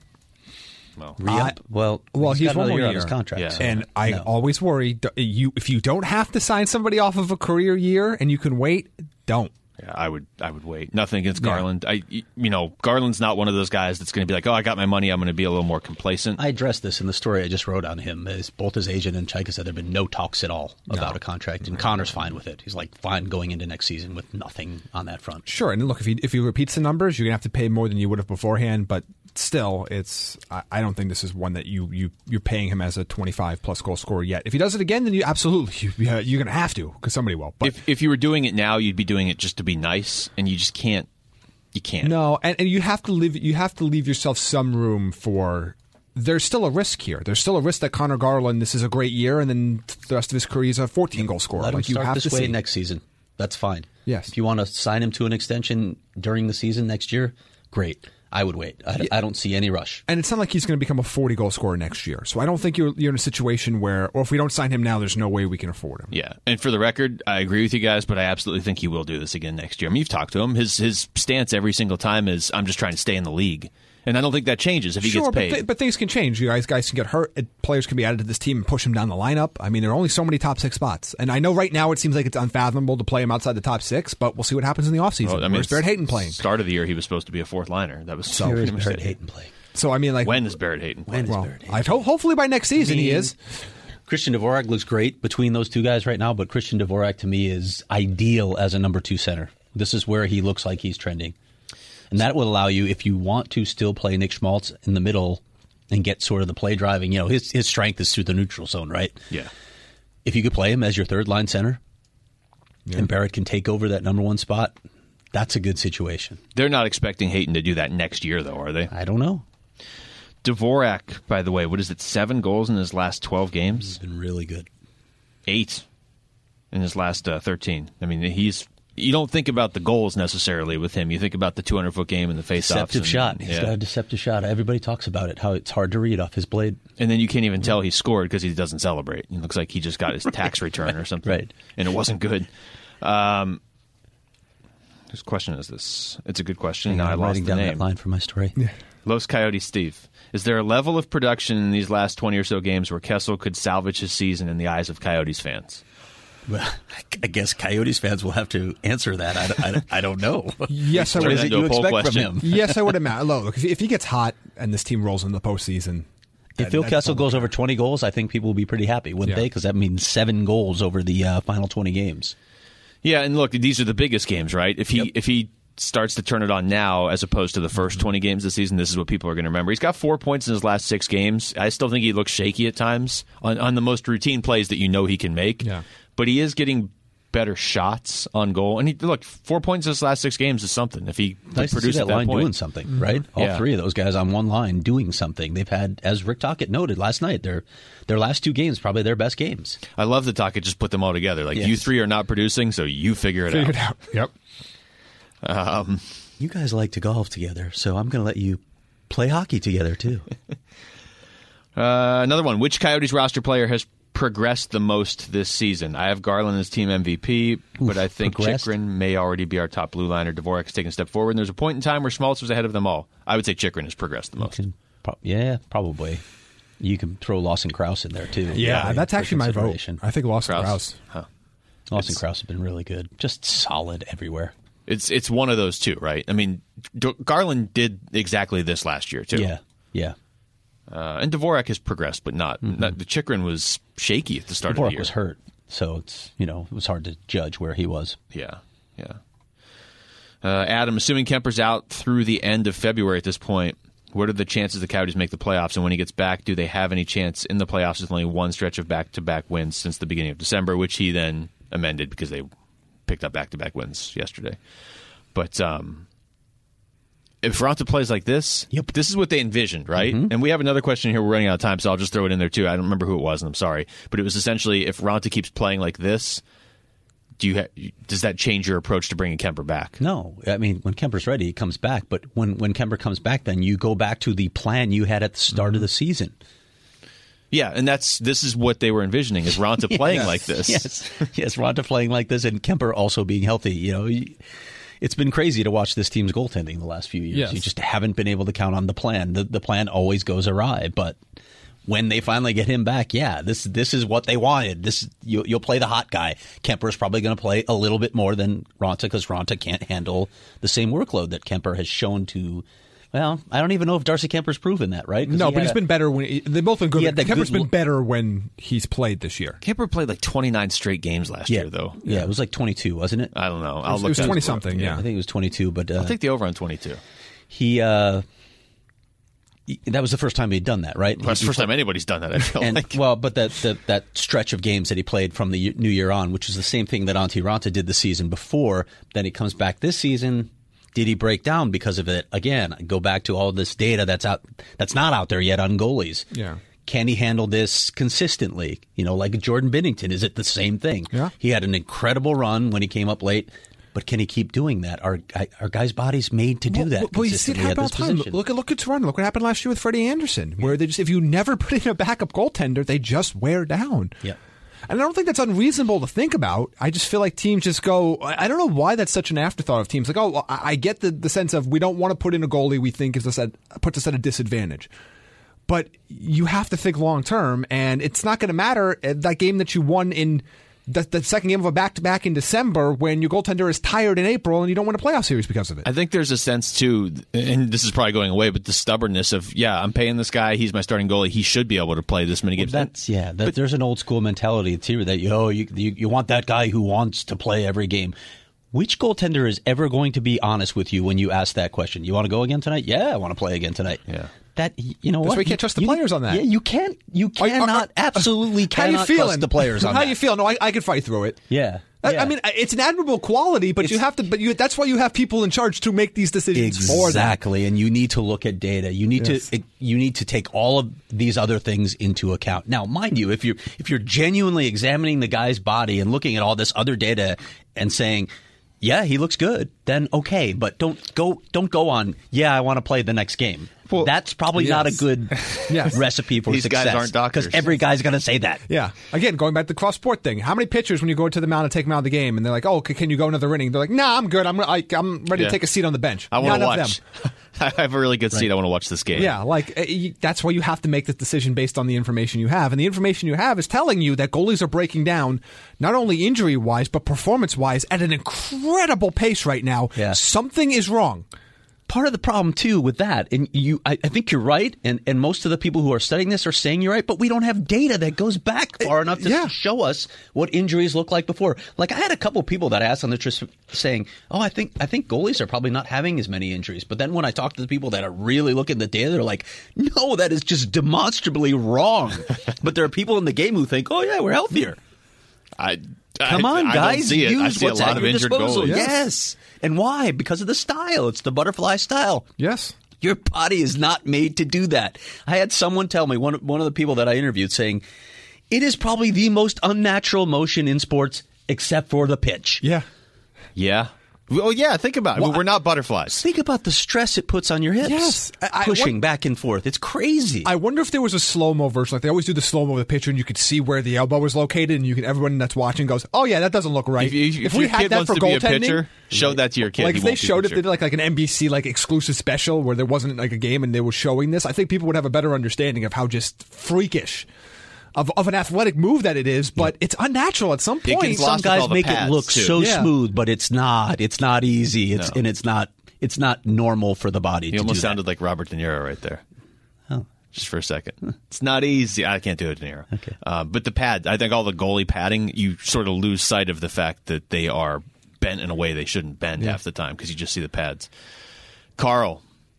Well, Re-up? well, well, he's, he's got one another more year on year. his contract. Yeah. so And I no. always worry d- you if you don't have to sign somebody off of a career year and you can wait, don't. yeah, I would. I would wait. Nothing against Yeah. Garland. I, you know, Garland's not one of those guys that's going to be like, oh, I got my money. I'm going to be a little more complacent. I addressed this in the story I just wrote on him. As both his agent and Chaika said there have been no talks at all about a contract, and Connor's fine with it. He's like, fine going into next season with nothing on that front. Sure, and look, if he if he repeats the numbers, you're gonna have to pay more than you would have beforehand. But still, it's I, I don't think this is one that you you you're paying him as a twenty-five plus goal scorer yet. If he does it again, then you absolutely you, yeah, you're gonna have to because somebody will. But if if you were doing it now, you'd be doing it just to be nice, and you just can't. You can't. no, and, and you have to leave you have to leave yourself some room for. There's still a risk here. There's still a risk that Connor Garland, this is a great year, and then the rest of his career he's a fourteen goal scorer. Let like him you start have this to way see. next season. That's fine. Yes. If you want to sign him to an extension during the season next year, great. I would wait. I, I don't see any rush. And it's not like he's going to become a forty goal scorer next year. So I don't think you're you're in a situation where, or if we don't sign him now, there's no way we can afford him. Yeah, and for the record, I agree with you guys, but I absolutely think he will do this again next year. I mean, you've talked to him. His his stance every single time is, "I'm just trying to stay in the league," and I don't think that changes if he Sure, gets paid. but, th- but things can change. You guys, guys can get hurt. Uh, Players can be added to this team and push him down the lineup. I mean, there are only so many top six spots. And I know right now it seems like it's unfathomable to play him outside the top six, but we'll see what happens in the offseason. Well, I mean, Where's Barrett Hayton playing? Start of the year, he was supposed to be a fourth liner. That was so Here pretty is much Barrett it. Hayton play. So, I mean, like. When is Barrett Hayton playing? When is Well, Barrett Hayton? I hope hopefully by next season he mean, is. Christian Dvorak looks great between those two guys right now, but Christian Dvorak to me is ideal as a number two center. This is where he looks like he's trending. And that will allow you, if you want to still play Nick Schmaltz in the middle and get sort of the play driving, you know, his his strength is through the neutral zone, right? Yeah. If you could play him as your third line center and Barrett can take over that number one spot, that's a good situation. They're not expecting Hayton to do that next year, though, are they? I don't know. Dvorak, by the way, what is it, seven goals in his last twelve games? He's been really good. Eight in his last uh, thirteen. I mean, he's... You don't think about the goals necessarily with him. You think about the two hundred foot game and the face-offs. Deceptive and, shot. He's yeah. got a deceptive shot. Everybody talks about it, how it's hard to read off his blade. And then you can't even tell he scored because he doesn't celebrate. It looks like he just got his tax return or something. Right. And it wasn't good. Um, whose question is this? It's a good question. Now I I'm lost writing the down name. that line for my story. Los Coyotes Steve. Is there a level of production in these last twenty or so games where Kessel could salvage his season in the eyes of Coyotes fans? Well, I guess Coyotes fans will have to answer that. I, I, I don't know. Yes, I Turn would. that is it into you a poll expect from question. him? Yes, I would imagine. Look, if, if he gets hot and this team rolls in the postseason, If that- Phil that's Kessel all goes we over care. twenty goals, I think people will be pretty happy, wouldn't Yeah. they? Because that means seven goals over the uh, final twenty games. Yeah, and look, these are the biggest games, right? If he Yep. if he starts to turn it on now as opposed to the first twenty games of the season, this is what people are going to remember. He's got four points in his last six games. I still think he looks shaky at times on, on the most routine plays that you know he can make. Yeah. But he is getting better shots on goal. And he, look, four points in his last six games is something. If he Nice to see produces that that line point. doing something, right? All Yeah. three of those guys on one line doing something. They've had, as Rick Tocchet noted last night, their their last two games probably their best games. I love that Tocchet just put them all together. Like, Yes. you three are not producing, so you figure it Figured out. out. Yep. You guys like to golf together, so I'm going to let you play hockey together too. Uh, another one. Which Coyotes roster player has progressed the most this season? I have Garland as team M V P, but I think progressed? Chychrun may already be our top blue liner. Dvorak's taken a step forward, and there's a point in time where Schmaltz was ahead of them all. I would say Chychrun has progressed the most. Can- pro- yeah, probably. You can throw Lawson Krause in there too. Yeah, for- that's for actually my vote. consideration. I think Lawson Krause. Krause. Huh. Lawson It's- Krause has been really good. Just solid everywhere. It's it's one of those two, right? I mean, D- Garland did exactly this last year too. Yeah, yeah. Uh, and Dvorak has progressed, but not. not the Chychrun was shaky at the start of the Dvorak year. was hurt, so it's you know it was hard to judge where he was. Yeah, yeah. Uh, Adam, assuming Kemper's out through the end of February at this point, what are the chances the Coyotes make the playoffs? And when he gets back, do they have any chance in the playoffs with only one stretch of back-to-back wins since the beginning of December, which he then amended because they picked up back-to-back wins yesterday. But um, if Raanta plays like this, Yep. this is what they envisioned, right? Mm-hmm. And we have another question here. We're running out of time, so I'll just throw it in there too. I don't remember who it was, and I'm sorry. But it was essentially, if Raanta keeps playing like this, do you ha- does that change your approach to bringing Kemper back? No. I mean, when Kemper's ready, he comes back. But when, when Kemper comes back, then you go back to the plan you had at the start mm-hmm. of the season. Yeah, and that's this is what they were envisioning, is Raanta playing yes. like this. Yes, yes, Raanta playing like this, and Kemper also being healthy. You know, it's been crazy to watch this team's goaltending the last few years. Yes. You just haven't been able to count on the plan. The, the plan always goes awry, but when they finally get him back, yeah, this this is what they wanted. This you, you'll play the hot guy. Kemper's probably going to play a little bit more than Raanta because Raanta can't handle the same workload that Kemper has shown to. Well, I don't even know if Darcy Kemper's proven that, right? No, he but he's a, been better when he, they've both been good. Kemper's Kemper's good been better when he's played this year. Kemper played like twenty-nine straight games last yeah, year, though. Yeah, it was like twenty-two, wasn't it? I don't know. I'll It was, look it was that twenty up. something. Yeah. I think it was twenty-two, but uh, I'll take the over on twenty-two. He, uh, he, that was the first time he'd done that, right? Well, that's the first time anybody's done that, I feel and, like. Well, but that, that that stretch of games that he played from the new year on, which was the same thing that Antti Raanta did the season before, then he comes back this season. Did he break down because of it? Again, go back to all this data that's out that's not out there yet on goalies. Yeah. Can he handle this consistently? You know, like Jordan Binnington, is it the same thing? Yeah. He had an incredible run when he came up late, but can he keep doing that? Are are guys' bodies made to do well, that? Well, you see it happen all the time. Position? Look at look at Toronto. Look what happened last year with Freddie Anderson, where they just if you never put in a backup goaltender, they just wear down. Yeah. And I don't think that's unreasonable to think about. I just feel like teams just go, I don't know why that's such an afterthought of teams. Like, oh, well, I get the, the sense of we don't want to put in a goalie we think is us at, puts us at a disadvantage. But you have to think long term, and it's not going to matter that game that you won in the, the second game of a back-to-back in December when your goaltender is tired in April and you don't win a playoff series because of it. I think there's a sense, too, and this is probably going away, but the stubbornness of, yeah, I'm paying this guy, he's my starting goalie, he should be able to play this many games. Well, that's, yeah, that, but, there's an old school mentality, too, that, oh, you, you, you want that guy who wants to play every game. Which goaltender is ever going to be honest with you when you ask that question? You want to go again tonight? Yeah, I want to play again tonight. Yeah. That you know That's what? why you can't trust the you, players on that. Yeah, you can't. You Are- are- cannot. are- absolutely How you cannot feeling? trust the players on How that. you feel? No, I, I can fight through it. Yeah. I, yeah. I mean, it's an admirable quality, but you It's- have to. But you, that's why you have people in charge to make these decisions for them. Exactly, and you need to look at data. You need Yes. to you need to take all of these other things into account. Now, mind you, if you're if you're genuinely examining the guy's body and looking at all this other data and saying, yeah, he looks good, then okay, but don't go don't go on, yeah, I want to play the next game. Well, That's probably not a yes. good Yes. recipe for These guys success. aren't doctors. Because every guy's going to say that. Yeah. Again, going back to the cross sport thing. How many pitchers, when you go to the mound and take them out of the game, and they're like, "Oh, c- can you go another inning?" They're like, "Nah, I'm good. I'm I, I'm ready Yeah. to take a seat on the bench." I want to None of watch. them. I have a really good seat. I want to watch this game. Yeah, like uh, you, that's why you have to make this decision based on the information you have, and the information you have is telling you that goalies are breaking down, not only injury wise but performance wise, at an incredible pace right now. Yeah. Something is wrong. Part of the problem too with that, and you, I, I think you're right, and, and most of the people who are studying this are saying you're right, but we don't have data that goes back far enough to yeah. show us what injuries look like before. Like I had a couple people that I asked on the trip saying, "Oh, I think I think goalies are probably not having as many injuries." But then when I talk to the people that are really looking at the data, they're like, "No, that is just demonstrably wrong." But there are people in the game who think, "Oh yeah, we're healthier." I, Come I, on, I guys! Don't see it. Use I see what's a lot at of your injured disposal. goalies. Yes, and why? Because of the style. It's the butterfly style. Yes. Your body is not made to do that. I had someone tell me, one, one of the people that I interviewed, saying, it is probably the most unnatural motion in sports except for the pitch. Yeah. Yeah. Well, yeah, think about it. Well, We're not butterflies. Think about the stress it puts on your hips. Yes. I- I Pushing want- back and forth. It's crazy. I wonder if there was a slow-mo version. Like they always do the slow-mo of the pitcher, and you could see where the elbow was located, and you can everyone that's watching goes, "Oh yeah, that doesn't look right." If, if, if we your had kid that wants for to be a goaltending, pitcher, show that to your kid. like He if they won't be a showed it, pitcher. they did like like an N B C like exclusive special where there wasn't like a game and they were showing this. I think people would have a better understanding of how just freakish of of an athletic move that it is. But it's unnatural at some It point. gets Some lost with guys all the make it pads, look too. so Yeah. smooth, but it's not. It's not easy. It's No. and it's not. It's not normal for the body. He to almost do that. sounded like Robert De Niro right there. Oh. Just for a second. It's not easy. I can't do it, De Niro. Okay. Uh, but the pad, I think all the goalie padding, you sort of lose sight of the fact that they are bent in a way they shouldn't bend half the time because you just see the pads. Carl,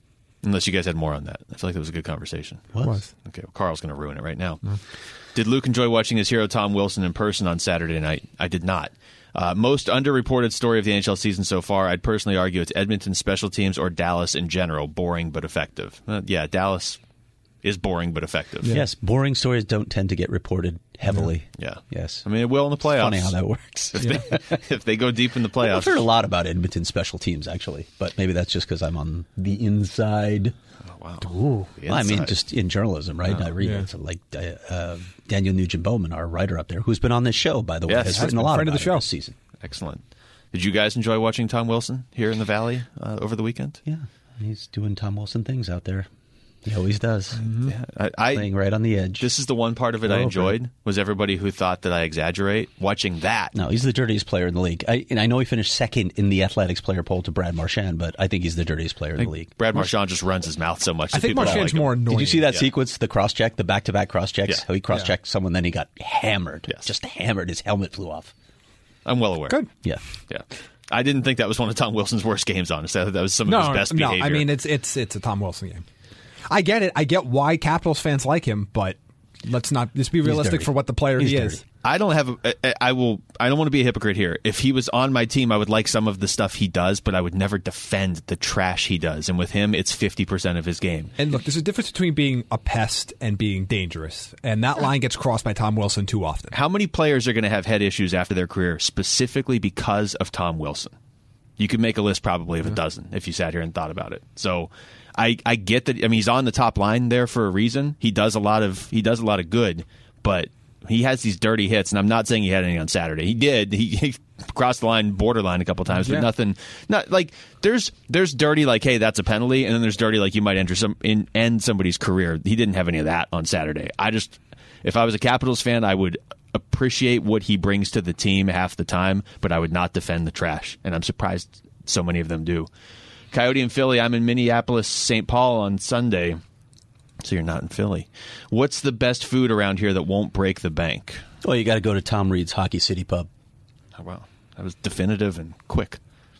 Unless you guys had more on that. I feel like that was a good conversation. Was. Was. Okay, well, Carl's going to ruin it right now. Did Luke enjoy watching his hero Tom Wilson in person on Saturday night? I did not. Uh, most underreported story of the N H L season so far, I'd personally argue it's Edmonton special teams or Dallas in general. Boring but effective. Uh, yeah, Dallas is boring but effective. Yeah. Yes, boring stories don't tend to get reported heavily. Yeah. Yes. I mean, it will in the playoffs. Funny how that works. If, they, if they go deep in the I've playoffs. heard a lot about Edmonton special teams, actually, but maybe that's just because I'm on the inside. Oh, wow. Ooh. The Well, I mean, inside. just in journalism, right? I read yeah. it. So like uh, uh, Daniel Nugent-Bowman, our writer up there, who's been on this show, by the way, Yes. has Has written a been lot friend of about the show. it this season. Excellent. Did you guys enjoy watching Tom Wilson here in the Valley uh, over the weekend? Yeah, he's doing Tom Wilson things out there. He always does. Yeah. I, I Playing right on the edge. This is the one part of it I Over. enjoyed, was everybody who thought that I exaggerate. Watching that. No, he's the dirtiest player in the league. I, and I know he finished second in the Athletics player poll to Brad Marchand, but I think he's the dirtiest player in the league. Brad Marchand just runs his mouth so much. I that think people don't Marchand's like him. more annoying. Did you see that Yeah. sequence, the cross check, the back to back cross checks? Yeah. How he cross checked someone, then he got hammered. Yes. Just hammered. His helmet flew off. I'm well aware. Good. Yeah. Yeah. I didn't think that was one of Tom Wilson's worst games, honestly. I thought that was some of No, his best no. behavior. I mean, it's it's it's a Tom Wilson game. I get it. I get why Capitals fans like him, but let's not just be realistic dirty. for what the player He's he dirty. is. I don't have. A, I- I will. I don't want to be a hypocrite here. If he was on my team, I would like some of the stuff he does, but I would never defend the trash he does. And with him, it's fifty percent of his game. And look, there's a difference between being a pest and being dangerous, and that line gets crossed by Tom Wilson too often. How many players are going to have head issues after their career specifically because of Tom Wilson? You could make a list probably of a dozen if you sat here and thought about it. So I, I get that. I mean, he's on the top line there for a reason. He does a lot of he does a lot of good, but he has these dirty hits. And I'm not saying he had any on Saturday. He did. He, he crossed the line, borderline a couple times, but Yeah. nothing. Not like there's there's dirty like, hey, that's a penalty, and then there's dirty like you might enter some in, end somebody's career. He didn't have any of that on Saturday. I just if I was a Capitals fan, I would appreciate what he brings to the team half the time, but I would not defend the trash, and I'm surprised so many of them do. Coyote and Philly, I'm in Minneapolis, Saint Paul on Sunday, so you're not in Philly. What's the best food around here that won't break the bank? Well, you got to go to Tom Reed's Hockey City Pub. Oh, wow, that was definitive and quick.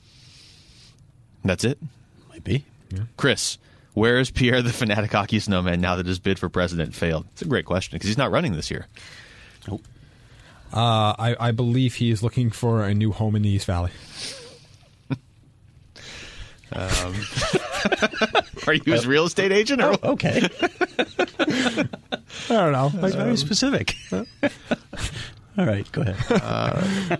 That's it? Might be. Chris, where is Pierre the Fanatic Hockey Snowman now that his bid for president failed? It's a great question because he's not running this year. Nope. Uh, I, I believe he is looking for a new home in the East Valley. Are you his real estate agent? Or Okay. I don't know. That's very specific. All right, go ahead.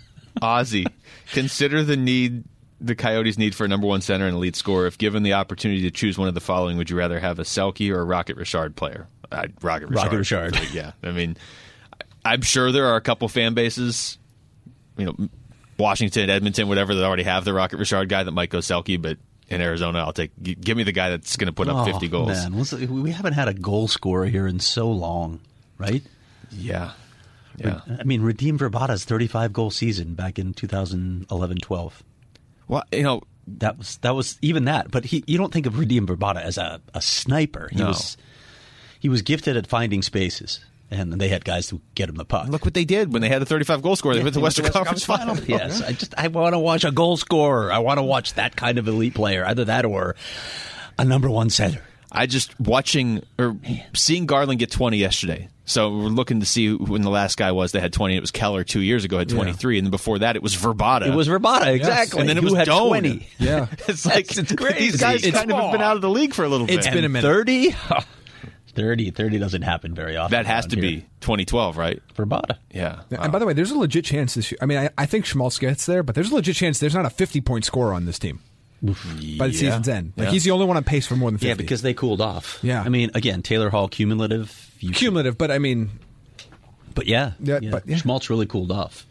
Ozzy, consider the need the Coyotes need for a number one center and elite scorer. If given the opportunity to choose one of the following, would you rather have a Selke or a Rocket Richard player? I'd, Rocket Richard. Rocket Richard. Yeah. I mean, I'm sure there are a couple fan bases, you know, Washington, Edmonton, whatever, that already have the Rocket Richard guy that might go Selke, but in Arizona, I'll take. g- Give me the guy that's going to put up fifty Oh, goals. Man, What's the- we haven't had a goal scorer here in so long, right? Yeah. Yeah. I mean, Radim Verbata's thirty-five goal season back in two thousand eleven twelve. Well, you know, That was that was even that, but he you don't think of Radim Verbata as a, a sniper. He No. was he was gifted at finding spaces, and they had guys who get him the puck. look what they did when they had a thirty-five goal scorer. They went to the Western Conference Final. Yes, I just I want to watch a goal scorer. I want to watch that kind of elite player, either that or a number one center. I just watching or seeing Garland get twenty yesterday. So we're looking to see who, when the last guy was that had twenty. It was Keller two years ago had twenty-three, and then before that it was Verbata. It was Verbata, exactly. and then it who was had Doan. twenty. Yeah. It's like It's- it's crazy. these guys It's kind of have been out of the league for a little bit. It's been a And minute. thirty? thirty, thirty doesn't happen very often. that has around to here. be twenty twelve, right? Verbata. Yeah. And by the way, there's a legit chance this year. I mean, I, I think Schmaltz gets there, but there's a legit chance there's not a fifty-point scorer on this team by the Yeah. season's end. Like Yeah. he's the only one on pace for more than fifty. Yeah, because they cooled off. Yeah. I mean, again, Taylor Hall cumulative. You cumulative, but I mean, But yeah, Yeah, but yeah. Schmaltz really cooled off.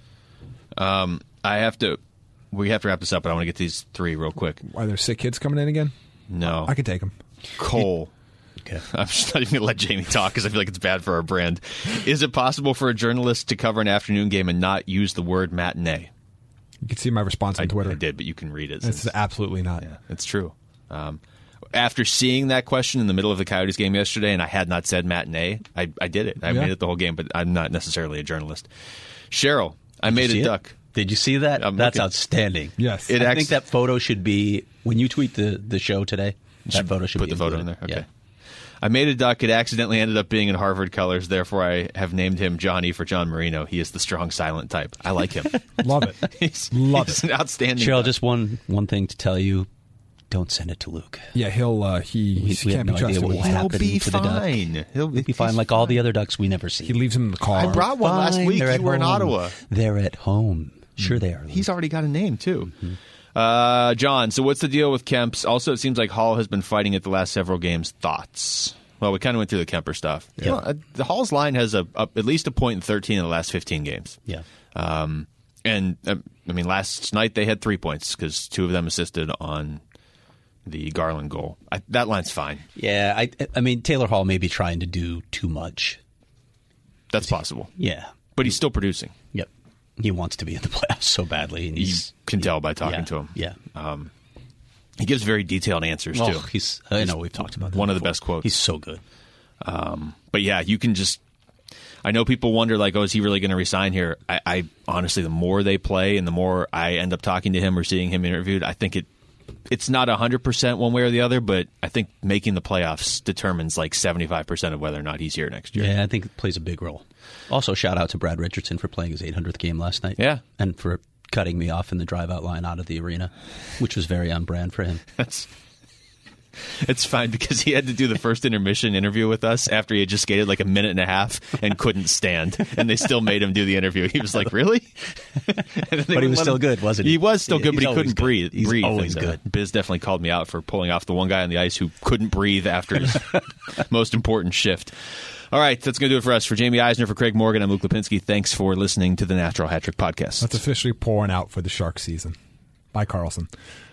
Um, I have to. We have to wrap this up, but I want to get these three real quick. are there sick kids coming in again? No, I could take them. Cole. Okay. I'm just not even going to let Jamie talk because I feel like it's bad for our brand. Is it possible for a journalist to cover an afternoon game and not use the word matinee? You can see my response on I, Twitter. I did, but you can read it. It's since- absolutely not. Yeah, it's true. Um, after seeing that question in the middle of the Coyotes game yesterday, and I had not said matinee, I, I did it. I Yeah. made it the whole game, but I'm not necessarily a journalist. Cheryl, I made See a it? duck. Did you see that? I'm That's looking. outstanding. Yes. It I acts- think that photo should be when you tweet the, the show today. That photo should put be the photo included. in there. Okay. Yeah. I made a duck. It accidentally ended up being in Harvard colors. Therefore, I have named him Johnny for John Marino. He is the strong, silent type. I like him. Love it. he's, Love he's it. an outstanding. Cheryl, duck. just one one thing to tell you: don't send it to Luke. Yeah, he'll uh, he, We- he we have can't no be idea trusted. what with will that. He'll happen be to the duck. fine. He'll He'll be fine, he's like all the other ducks we never see. He leaves him in the car. I brought one last Fine, week. they're You at were in home. Ottawa. They're at home. Sure, they are. Luke. He's already got a name too. Mm-hmm. Uh, John, so what's the deal with Kemp's? Also, it seems like Hall has been fighting it the last several games. Thoughts? Well, we kind of went through the Kemper stuff. You know, uh, the Hall's line has a, a at least a point in thirteen in the last fifteen games. Yeah. Um, and uh, I mean, last night they had three points because two of them assisted on the Garland goal. I, that line's fine. Yeah, I I mean Taylor Hall may be trying to do too much. That's possible. Yeah. But he's still producing. Yep. He wants to be in the playoffs so badly, and You he's can tell by talking yeah, to him. Yeah. Um, he gives very detailed answers Oh, too. he's I know we've talked about that one of the before. best quotes. He's so good. Um, but yeah, you can just. I know people wonder, like, oh, is he really going to resign here? I, I honestly, the more they play and the more I end up talking to him or seeing him interviewed, I think it. It's not one hundred percent one way or the other, but I think making the playoffs determines like seventy-five percent of whether or not he's here next year. Yeah, I think it plays a big role. Also, shout out to Brad Richardson for playing his eight hundredth game last night. Yeah. And for cutting me off in the drive-out line out of the arena, which was very on brand for him. That's. It's fine because he had to do the first intermission interview with us after he had just skated like a minute and a half and couldn't stand, and they still made him do the interview. He was like, "Really?" But he was still good, wasn't he? He was still Yeah, good, but he's he couldn't always good. breathe. He's breathe. always And, uh, good. Biz definitely called me out for pulling off the one guy on the ice who couldn't breathe after his most important shift. All right, that's going to do it for us. For Jamie Eisner, for Craig Morgan, I'm Luke Lipinski. Thanks for listening to the Natural Hat Trick Podcast. That's officially pouring out for the Shark season. Bye, Carlson.